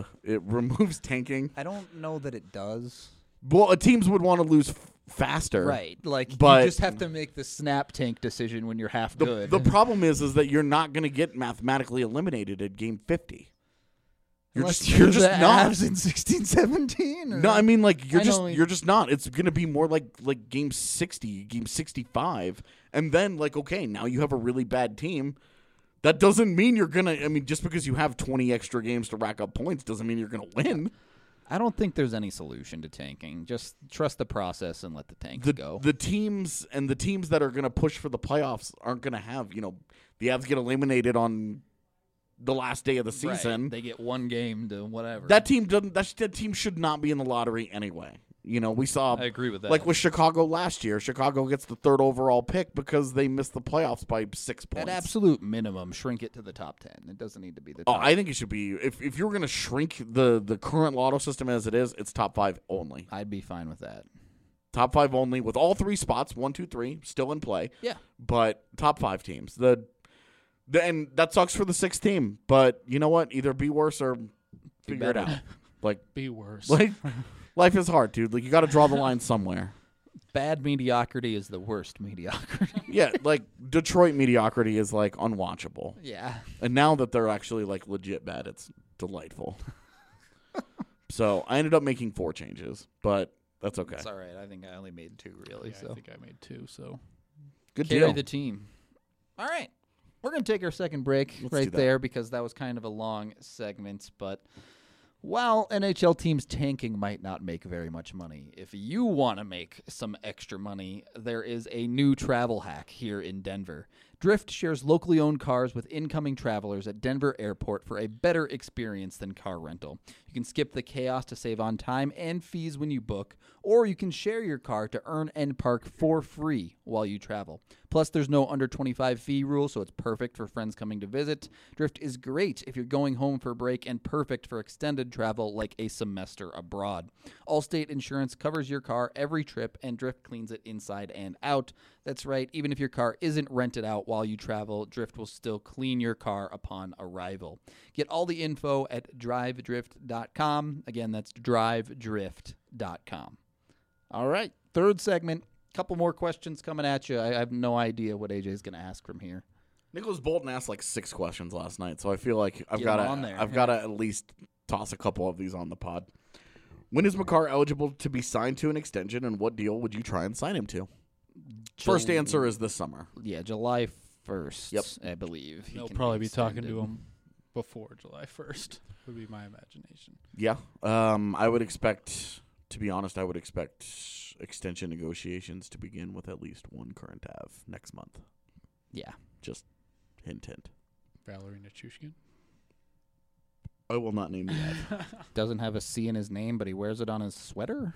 tanking. I don't know that it does. Well, teams would want to lose faster, Right. Like, But- you just have to make the snap tank decision when you're half good. The problem is that you're not going to get mathematically eliminated at game 50. You're Unless just, you're the just not. Avs in 16-17. No, I mean like I know. you're just not. It's going to be more like game 60, game 65, and then like okay, now you have a really bad team That doesn't mean you're going to – I mean, just because you have 20 extra games to rack up points doesn't mean you're going to win. I don't think there's any solution to tanking. Just trust the process and let the tanks go. The teams that are going to push for the playoffs aren't going to have, the Avs get eliminated on the last day of the season. Right. They get one game to whatever. That team should not be in the lottery anyway. We saw. I agree with that. Like with Chicago last year, Chicago gets the 3rd overall pick because they missed the playoffs by 6 points. At absolute minimum, shrink it to the top 10. It doesn't need to be the Oh, top. I think it should be. If you're going to shrink the current lotto system as it is, it's top 5 only. I'd be fine with that. Top 5 only with all 3 spots, 1, 2, 3, still in play. Yeah. But top 5 teams. And that sucks for the 6th team. But you know what? Either be worse or figure it better. out. Like Be worse. Life is hard, dude. Like you got to draw the line somewhere. Bad mediocrity is the worst mediocrity. Yeah, like Detroit mediocrity is like unwatchable. Yeah. And now that they're actually like legit bad, it's delightful. So I ended up making 4 changes, but that's okay. It's all right. I think I only made 2, really. Yeah, So I think I made 2. So Good carry deal. the team. All right. We're going to take our second break Let's do right that. there because that was kind of a long segment. But while NHL teams tanking might not make very much money, if you want to make some extra money, there is a new travel hack here in Denver. Drift shares locally owned cars with incoming travelers at Denver Airport for a better experience than car rental. You can skip the chaos to save on time and fees when you book, or you can share your car to earn and park for free while you travel. Plus, there's no under 25 fee rule, so it's perfect for friends coming to visit. Drift is great if you're going home for a break and perfect for extended travel like a semester abroad. Allstate Insurance covers your car every trip, and Drift cleans it inside and out. That's right, even if your car isn't rented out while you travel, Drift will still clean your car upon arrival. Get all the info at drivedrift.com. Again, that's drivedrift.com. All right, third segment. Couple more questions coming at you. I have no idea what AJ's going to ask from here. Nicholas Bolton asked like 6 questions last night, so I feel like I've Get got him on there. to at least toss a couple of these on the pod. When is Makar eligible to be signed to an extension, and what deal would you try and sign him to? First answer is this summer. Yeah, July 1st, Yep. I believe. He they'll can probably be talking extended. to him before July 1st. Would be my imagination. Yeah. I would expect, to be honest, extension negotiations to begin with at least one current Av next month. Yeah. Just hint. Valerie Nichushkin. I will not name the Av. Doesn't have a C in his name, but he wears it on his sweater.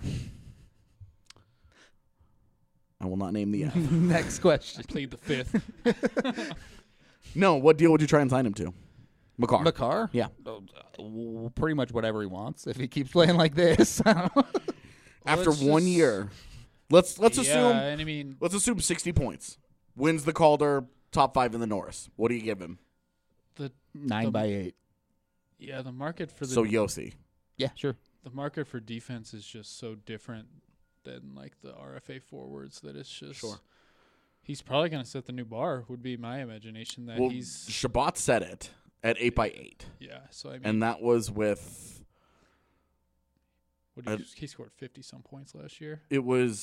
I will not name the Av. Next question. Played the 5th. No, what deal would you try and sign him to? Makar. Makar? Yeah. Pretty much whatever he wants if he keeps playing like this. After Let's 1 just- year. Let's Yeah, assume and I mean, let's assume 60 points. Wins the Calder, top 5 in the Norris. What do you give him? 9x8. yeah, the market for the So Yossi. Yeah, sure. the market for defense is just so different than like the RFA forwards that it's just. Sure. He's probably going to set the new bar. Would be my imagination that Well, he's. Shabbat said it at 8x8. Yeah, so I mean, And that was with what did he scored 50-some points last year. I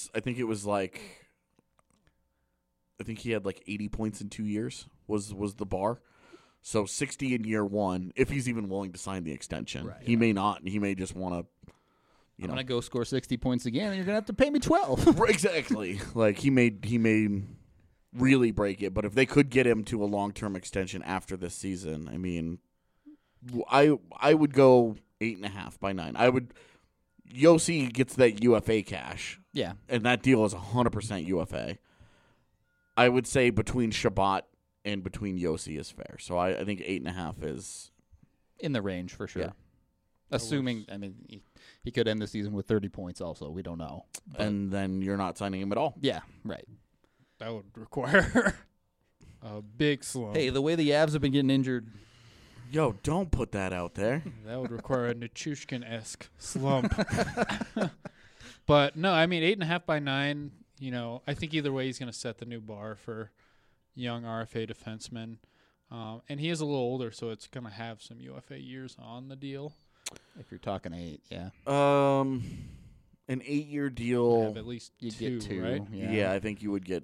think he had like 80 points in 2 years was the bar. So 60 in year 1, if he's even willing to sign the extension. Right. He may not. He may just want to, I'm going to go score 60 points again, and you're going to have to pay me 12. Exactly. Like he may really break it, but if they could get him to a long-term extension after this season, I mean, I would go 8.5 by 9. Yossi gets that UFA cash, Yeah. and that deal is 100% UFA. I would say between Shabbat and between Yossi is fair. So I think 8.5 is In the range, for sure. Yeah. Assuming, I mean, he could end the season with 30 points also. We don't know. But and then you're not signing him at all. yeah, right. That would require a big slump. Hey, the way the Avs have been getting injured, Yo, don't put that out there. That would require a Nichushkin-esque slump. But no, I mean 8.5 by 9. You know, I think either way he's going to set the new bar for young RFA defensemen, and he is a little older, so it's going to have some UFA years on the deal. if you're talking 8, yeah. An 8-year deal. Have at least You two, get 2, right? Yeah, I think you would get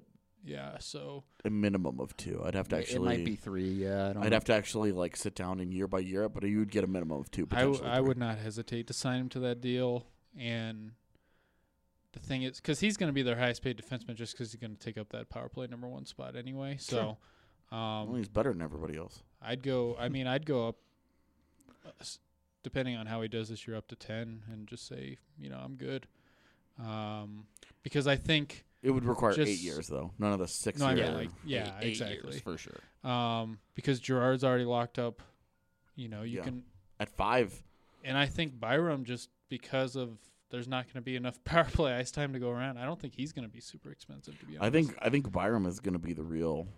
Yeah, so A minimum of 2. I'd have to actually. It might be 3. Yeah, I don't I'd know. have to actually like sit down and year by year, but you would get a minimum of 2. I Potentially three. would not hesitate to sign him to that deal. And the thing is, because he's going to be their highest paid defenseman just because he's going to take up that power play number 1 spot anyway. So Well, he's better than everybody else. I'd go up, depending on how he does this year, up to 10 and just say, I'm good. Because I think It would require Just- 8 years though. None of the 6 No, I years. mean, like, yeah, 8 exactly. years for sure. Because Gerard's already locked up, you Yeah. can, At 5. and I think Byram, just because of there's not going to be enough power play ice time to go around, I don't think he's going to be super expensive, to be honest. I think Byram is going to be the real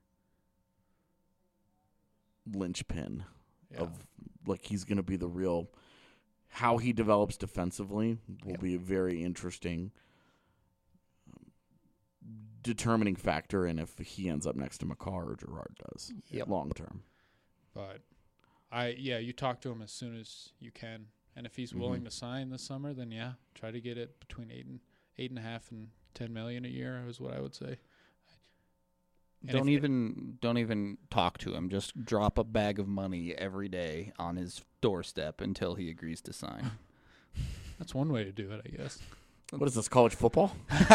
linchpin Yeah. of like he's going to be the real how he develops defensively will be a very interesting determining factor in if he ends up next to McCarr or Gerard does long term. But you talk to him as soon as you can, and if he's willing to sign this summer, then try to get it between 8.5 and 10 million a year is what I would say. And Don't even talk to him. Just drop a bag of money every day on his doorstep until he agrees to sign. That's one way to do it, I guess. What is this, college football?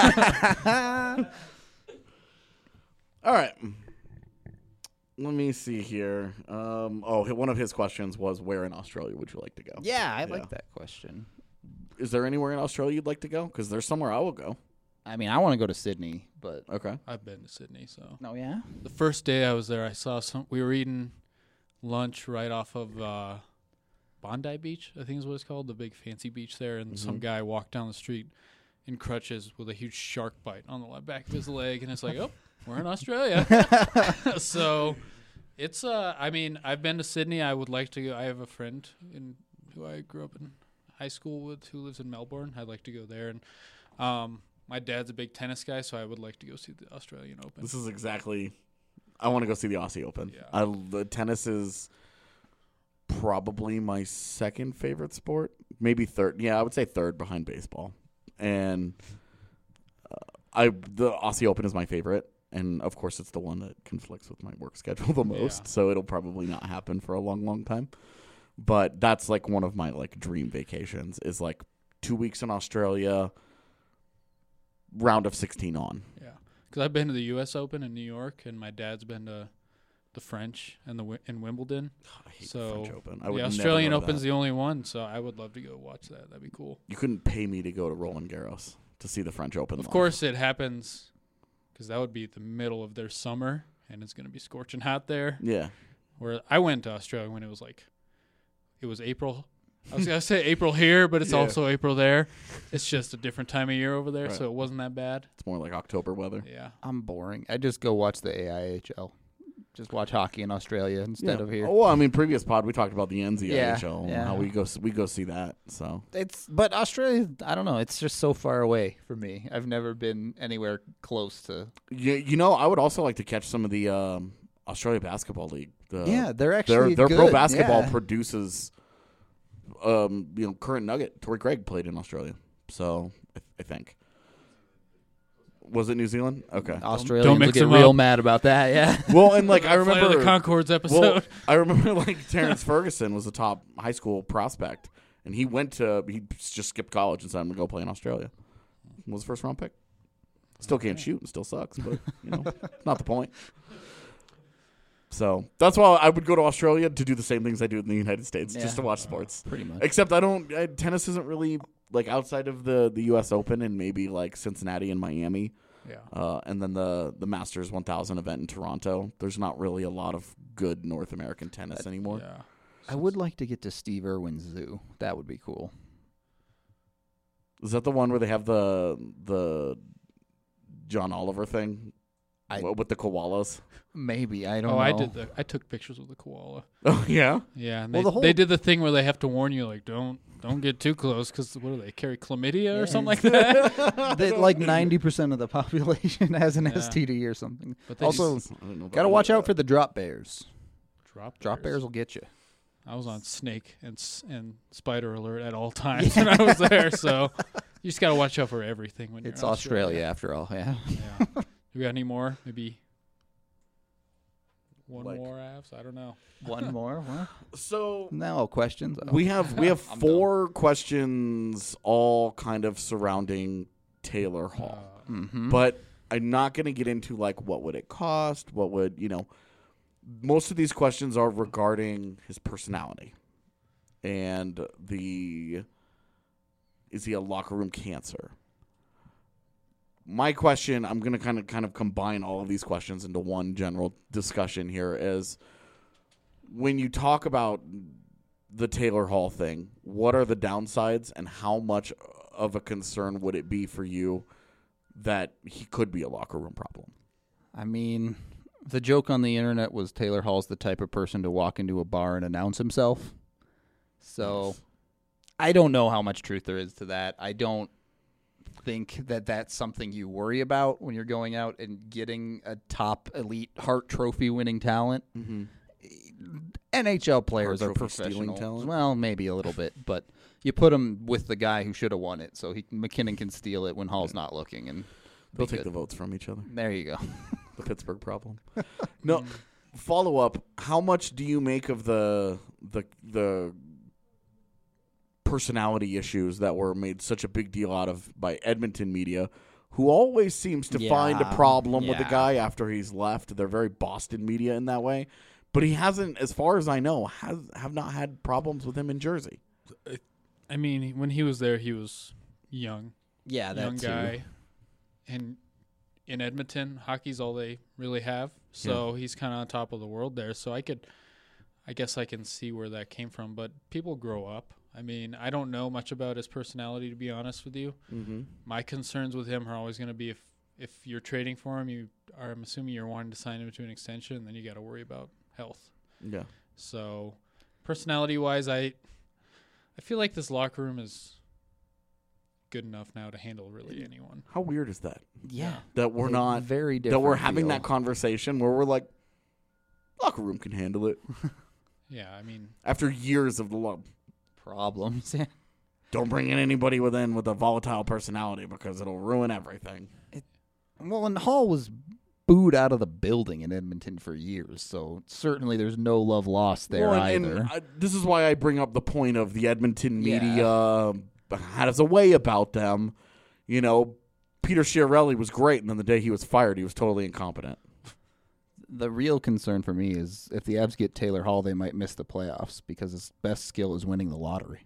All right. Let me see here. One of his questions was, where in Australia would you like to go? Yeah, I like that question. Is there anywhere in Australia you'd like to go? Because there's somewhere I will go. I mean, I want to go to Sydney, but Okay. I've been to Sydney, so no, yeah. the first day I was there, I saw we were eating lunch right off of Bondi Beach, I think is what it's called, the big fancy beach there, and some guy walked down the street in crutches with a huge shark bite on the back of his leg, and it's like, oh, we're in Australia. So it's I mean, I've been to Sydney. I would like to go. I have a friend who I grew up in high school with who lives in Melbourne. I'd like to go there, and my dad's a big tennis guy, so I would like to go see the Australian Open. This is exactly. I want to go see the Aussie Open. Yeah. The tennis is probably my second favorite sport, maybe third. Yeah, I would say third behind baseball, and the Aussie Open is my favorite. And of course, it's the one that conflicts with my work schedule the most, so it'll probably not happen for a long, long time. But that's like one of my like dream vacations is like 2 weeks in Australia, round of 16 on. Yeah, because I've been to the U.S. Open in New York, and my dad's been to the French and in Wimbledon. I hate So the French Open. I the would never Australian go to Open's that. the only one, so I would love to go watch that. That'd be cool. You couldn't pay me to go to Roland Garros to see the French Open. Of live. course, it happens because that would be the middle of their summer, and it's going to be scorching hot there. Yeah. Where I went to Australia when it was April. I was going to say April here, but it's Yeah. also April there. It's just a different time of year over there, Right. so it wasn't that bad. It's more like October weather. Yeah. I'm boring. I just go watch the AIHL. Just watch hockey in Australia instead of here. Well, I mean, previous pod we talked about the NZIHL and yeah. how we go see that. So But Australia, I don't know. It's just so far away for me. I've never been anywhere close to. you know, I would also like to catch some of the Australia Basketball League. They're actually their good. pro basketball Yeah. produces. Current Nugget Torrey Craig played in Australia, so I think. Was it New Zealand? Okay. Australians Don't will mix get them real up. mad about that. Yeah. Well, and like I Flight of remember the Concords episode. Well, I remember like Terrence Ferguson was a top high school prospect, and he just skipped college and said, "I'm gonna go play in Australia." Was a first round pick. Still can't shoot and still sucks, but it's not the point. So that's why I would go to Australia to do the same things I do in the United States, just to watch sports. Pretty much. Except tennis isn't really like outside of the U.S. Open and maybe like Cincinnati and Miami. Yeah. And then the Masters 1000 event in Toronto. There's not really a lot of good North American tennis anymore. Yeah. I would like to get to Steve Irwin's zoo. That would be cool. Is that the one where they have the John Oliver thing with the koalas? Maybe. I don't know. I took pictures with the koala. Oh yeah. Yeah, and Well, they did the thing where they have to warn you, like, don't get too close because what do they carry chlamydia or something like that? Like 90% of the population has an Yeah. STD or something. But they Also, just I didn't know got to watch out for the drop bears. drop Bears will get you. I was on snake and spider alert at all times when I was there, so you just got to watch out for everything when you're It's in Australia after all. Yeah. Yeah. Do we got any more? Maybe one Like- more, Avs? I don't know. One more. What? So No questions. Oh. we have I'm 4 questions all kind of surrounding Taylor Hall. Mhm. But I'm not going to get into like what would it cost, what would, most of these questions are regarding his personality and is he a locker room cancer? My question, I'm going to kind of combine all of these questions into one general discussion here, is when you talk about the Taylor Hall thing, what are the downsides and how much of a concern would it be for you that he could be a locker room problem? I mean, the joke on the internet was Taylor Hall's the type of person to walk into a bar and announce himself. So Yes. I don't know how much truth there is to that. I don't think that that's something you worry about when you're going out and getting a top elite Hart Trophy winning talent. Mm-hmm. NHL players Hart are Trophy stealing professional. talent? Well, maybe a little bit, but you put him with the guy who should have won it, so McKinnon can steal it when Hall's not looking, and They'll be take good. the votes from each other. There you go. The Pittsburgh problem. No, follow up. How much do you make of the personality issues that were made such a big deal out of by Edmonton media, who always seems to find a Yeah, problem with the yeah. guy after he's left? They're very Boston media in that way. But he hasn't, as far as I know, have not had problems with him in Jersey. I mean, when he was there, he was young. Yeah, Young guy. And in Edmonton, hockey's all they really have. So he's kind of on top of the world there. So I guess I can see where that came from. But people grow up. I mean, I don't know much about his personality, to be honest with you. Mm-hmm. My concerns with him are always going to be if you're trading for him, I'm assuming you're wanting to sign him to an extension, and then you got to worry about health. Yeah. So personality-wise, I feel like this locker room is good enough now to handle really anyone. How weird is that? Yeah. That we're not very different. that we're having feel. that conversation where we're like, locker room can handle it Yeah, I mean, after years of the love. problems. Don't bring in anybody with a volatile personality because it'll ruin everything. Well, and Hall was booed out of the building in Edmonton for years, so certainly there's no love lost there Well, either. This is why I bring up the point of the Edmonton media has a way about them. Peter Chiarelli was great, and then the day he was fired, he was totally incompetent. The real concern for me is if the Avs get Taylor Hall, they might miss the playoffs because his best skill is winning the lottery.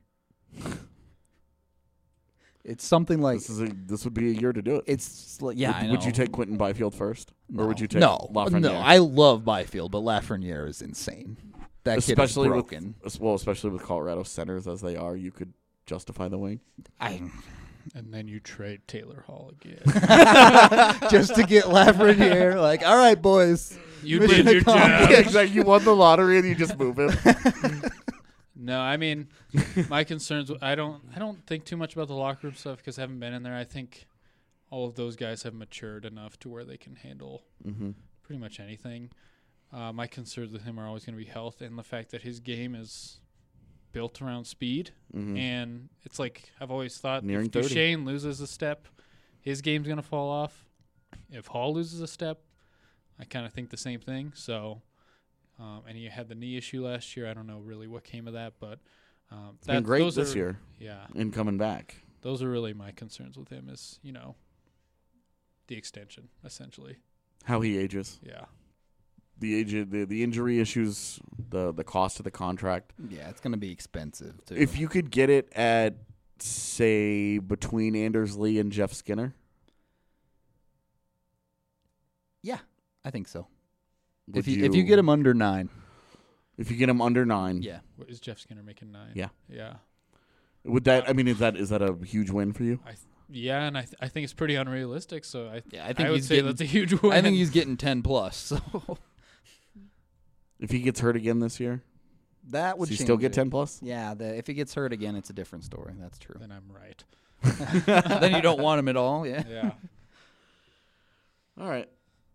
It's something like This would be a year to do it. it's like, yeah. I Would you know. take Quentin Byfield first, No. or would you take no? Lafreniere? No, I love Byfield, but Lafreniere is insane. That kid is especially broken. especially with Colorado centers as they are, you could justify the wing. and then you trade Taylor Hall again. Just to get Lafreniere, like, all right, boys. You Mission did your accomplished. job. Exactly. You won the lottery and you just move him. No, I mean, my concerns. I don't think too much about the locker room stuff because I haven't been in there. I think all of those guys have matured enough to where they can handle pretty much anything. My concerns with him are always going to be health and the fact that his game is built around speed. And it's like I've always thought, Nearing if 30. Duchesne loses a step, his game's going to fall off. If Hall loses a step, I kind of think the same thing. So. And he had the knee issue last year. I don't know really what came of that, but It's been great those this are- year Yeah, in coming back. those are really my concerns with him. Is the extension essentially. How he ages, Yeah, the injury issues, the cost of the contract. Yeah, it's going to be expensive, too. If you could get it at, say, between Anders Lee and Jeff Skinner, Yeah, I think so. would If you get him under 9. if you get him under 9, Yeah. what is Jeff Skinner making 9? Yeah. yeah, would that? I mean, is that a huge win for you? yeah. And I think it's pretty unrealistic. So I Yeah, I think would he's say getting, that's a huge win. I think he's getting 10 plus. So If he gets hurt again this year, that would does he change still get it. 10 plus? Yeah, if he gets hurt again, it's a different story. That's true. Then I'm right. Then you don't want him at all. Yeah. Yeah. All right.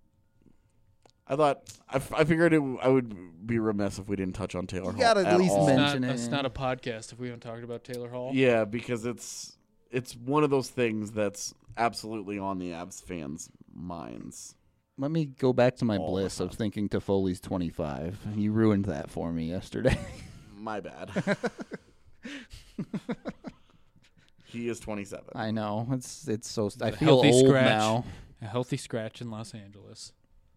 I figured I would be remiss if we didn't touch on Taylor You Hall. gotta at least all. mention- It's not a podcast if we haven't talked about Taylor Hall. Yeah, because it's one of those things that's absolutely on the Avs fans' minds. Let me go back to my All the bliss of time. thinking Toffoli's 25. You ruined that for me yesterday. My bad. He is 27. I know. It's so. I a feel healthy old scratch. now. A healthy scratch in Los Angeles.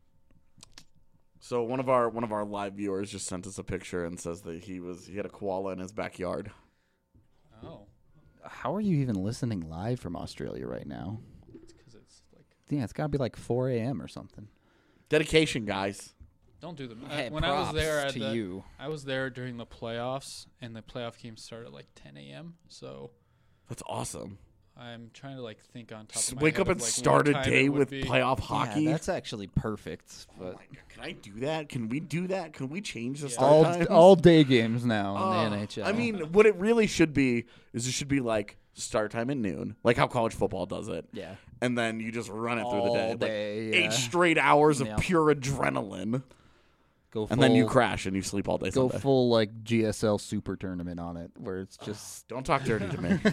So one of our live viewers just sent us a picture and says that he had a koala in his backyard. Oh, How are you even listening live from Australia right now? it's because it's like Yeah, it's got to be like 4 a.m. or something. Dedication, guys. don't do them. Hey, When I was there props at to you. I was there during the playoffs, and the playoff games started at like 10 a.m. So That's awesome. I'm trying to like think on top Just of my wake head up of, and like, start what a time day it would with be. playoff hockey. Yeah, that's actually perfect. Oh But my God, can I do that? Can we do that? Can we change the Yeah. start times? all day games now Oh, in the NHL. I mean, what it really should be is it should be like start time at noon, like how college football does it. yeah, And then you just run it through the day. all day. Like yeah. 8 straight hours of Yeah. pure adrenaline. Go full, And then you crash and you sleep all day go Sunday. full like GSL Super Tournament on it, where it's just Don't talk dirty to me.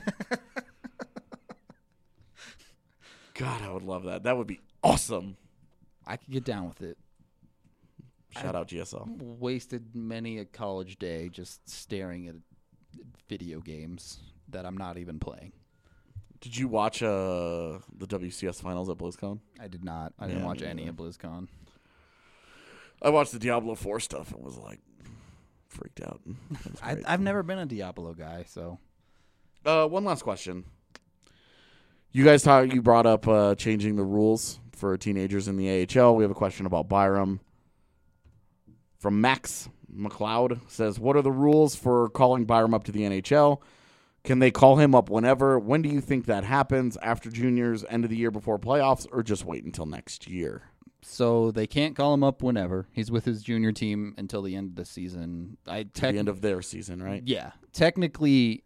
God, I would love that. That would be awesome. I could get down with it. Shout out GSL. Wasted many a college day just staring at video games that I'm not even playing. Did you watch the WCS finals at BlizzCon? I did not. I didn't Yeah, watch me any neither. of BlizzCon. I watched the Diablo 4 stuff and was like freaked out. It was great. I've never been a Diablo guy, so One last question. You guys you brought up changing the rules for teenagers in the AHL. We have a question about Byram. From Max McLeod says, what are the rules for calling Byram up to the NHL? Can they call him up whenever? When do you think that happens? After juniors, end of the year before playoffs, or just wait until next year? so they can't call him up whenever. He's with his junior team until the end of the season. The end of their season, right? Yeah. Technically,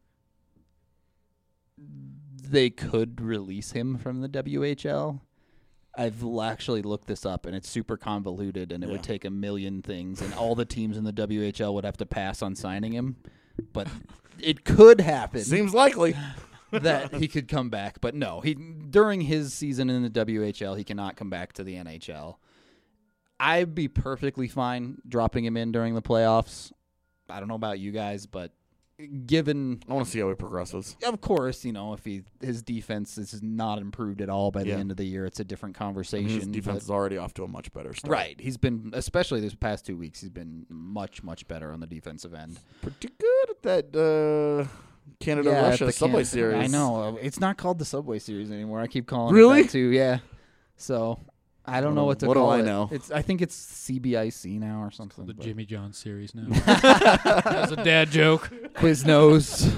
they could release him from the WHL. I've actually looked this up, and it's super convoluted, and it Yeah. would take a million things, and all the teams in the WHL would have to pass on signing him. But it could happen Seems likely. that he could come back. But no, during his season in the WHL, he cannot come back to the NHL. I'd be perfectly fine dropping him in during the playoffs. I don't know about you guys, but given, I want to see how he progresses. of course, if his defense is not improved at all by the Yeah. end of the year, it's a different I mean, conversation. his defense but- is already off to a much better start. right. He's been, especially this past 2 weeks, he's been much, much better on the defensive end. Pretty good at that Canada-Russia at the Subway Can- Series. I know. It's not called the Subway Series anymore. I keep calling Really? it that too. Yeah. So I don't know what to What do call I it. know? I think it's CBIC now or something. The but- Jimmy John series now. That's a dad joke. Quiznos.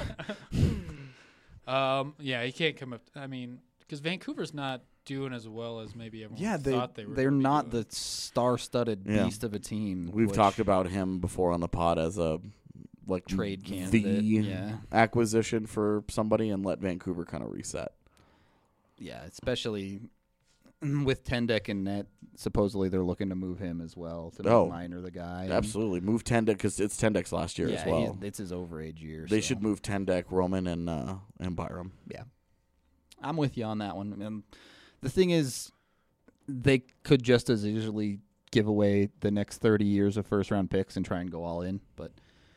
Yeah, he can't come up. I mean, because Vancouver's not doing as well as maybe everyone yeah, thought they were. they're gonna be not doing. the star-studded Yeah. beast of a team. We've which- talked about him before on the pod as a Trade the candidate, yeah. acquisition for somebody and let Vancouver kind of reset. Yeah, especially with Tendek and net. Supposedly they're looking to move him as well to Oh, make Minor the guy. and- Absolutely. Move Tendek because it's Tendek's last year yeah, as well. it's his overage year. They so. should move Tendek, Roman, and Byram. Yeah, I'm with you on that one. And the thing is, they could just as easily give away the next 30 years of first-round picks and try and go all in. But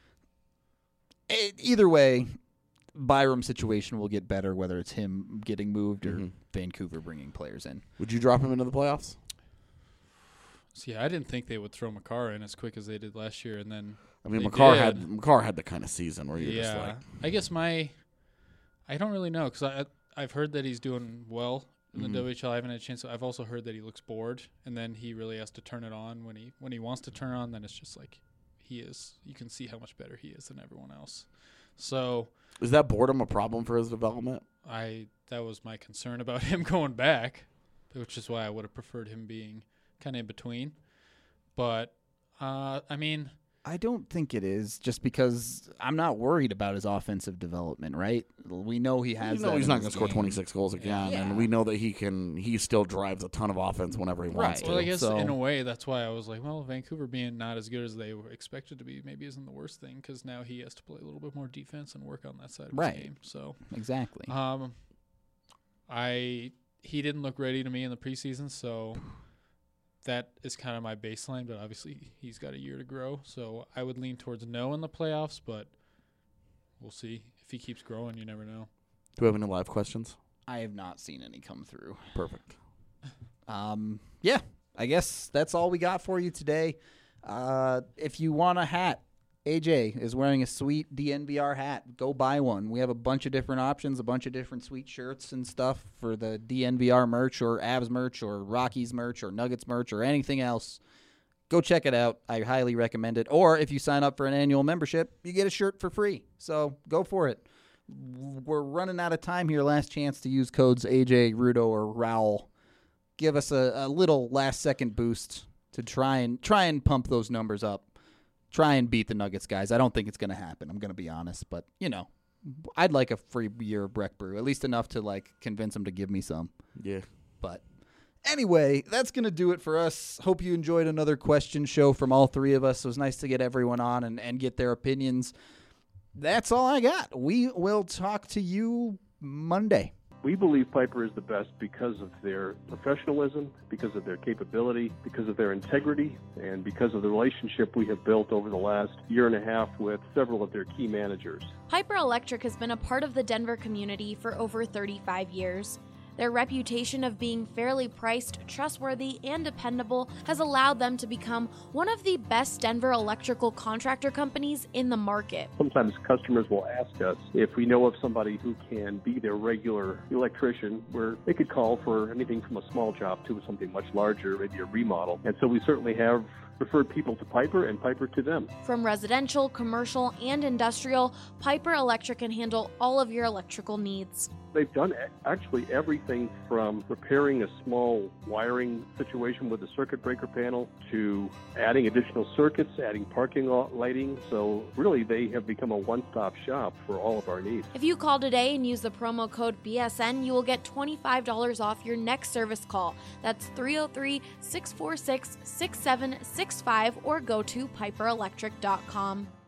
either way, Byram's situation will get better, whether it's him getting moved or Mhm. Vancouver bringing players in. Would you drop him into the playoffs? See, I didn't think they would throw Makar in as quick as they did last year, and then I mean, They Makar did. had the kind of season where you're just like, I guess I don't really know because I've heard that he's doing well in the Mhm. WHL. I haven't had a chance. I've also heard that he looks bored, and then he really has to turn it on when he wants to turn it on. Then it's just like he is. You can see how much better he is than everyone else. So is that boredom a problem for his development? that was my concern about him going back, which is why I would have preferred him being kind of in between. But I mean, I don't think it is, just because I'm not worried about his offensive development, right? We know he has You know that he's in not his going to score game. 26 goals again, Yeah. and we know that he still drives a ton of offense whenever he wants Right. to. well, I guess So- in a way that's why I was like, well, Vancouver being not as good as they were expected to be maybe isn't the worst thing because now he has to play a little bit more defense and work on that side of Right. his game. So Exactly. he didn't look ready to me in the preseason, so that is kind of my baseline, but obviously he's got a year to grow. So I would lean towards no in the playoffs, but we'll see. If he keeps growing, you never know. Do we have any live questions? I have not seen any come through. Perfect. Yeah, I guess that's all we got for you today. If you want a hat, AJ is wearing a sweet DNVR hat. Go buy one. We have a bunch of different options, a bunch of different sweet shirts and stuff for the DNVR merch or Avs merch or Rockies merch or Nuggets merch or anything else. Go check it out. I highly recommend it. Or if you sign up for an annual membership, you get a shirt for free. So go for it. We're running out of time here. Last chance to use codes AJ, Rudo, or Rowell. Give us a little last-second boost to try and pump those numbers up. Try and beat the Nuggets, guys. I don't think it's going to happen. I'm going to be honest. But, I'd like a free year of Breck Brew. At least enough to, convince them to give me some. Yeah. But anyway, that's going to do it for us. Hope you enjoyed another question show from all three of us. It was nice to get everyone on and get their opinions. That's all I got. We will talk to you Monday. We believe Piper is the best because of their professionalism, because of their capability, because of their integrity, and because of the relationship we have built over the last year and a half with several of their key managers. Piper Electric has been a part of the Denver community for over 35 years. Their reputation of being fairly priced, trustworthy, and dependable has allowed them to become one of the best Denver electrical contractor companies in the market. Sometimes customers will ask us if we know of somebody who can be their regular electrician, where they could call for anything from a small job to something much larger, maybe a remodel. And so we certainly have referred people to Piper and Piper to them. From residential, commercial, and industrial, Piper Electric can handle all of your electrical needs. They've done actually everything from repairing a small wiring situation with a circuit breaker panel to adding additional circuits, adding parking lot lighting. So really, they have become a one-stop shop for all of our needs. If you call today and use the promo code BSN, you will get $25 off your next service call. That's 303-646-6765 or go to piperelectric.com.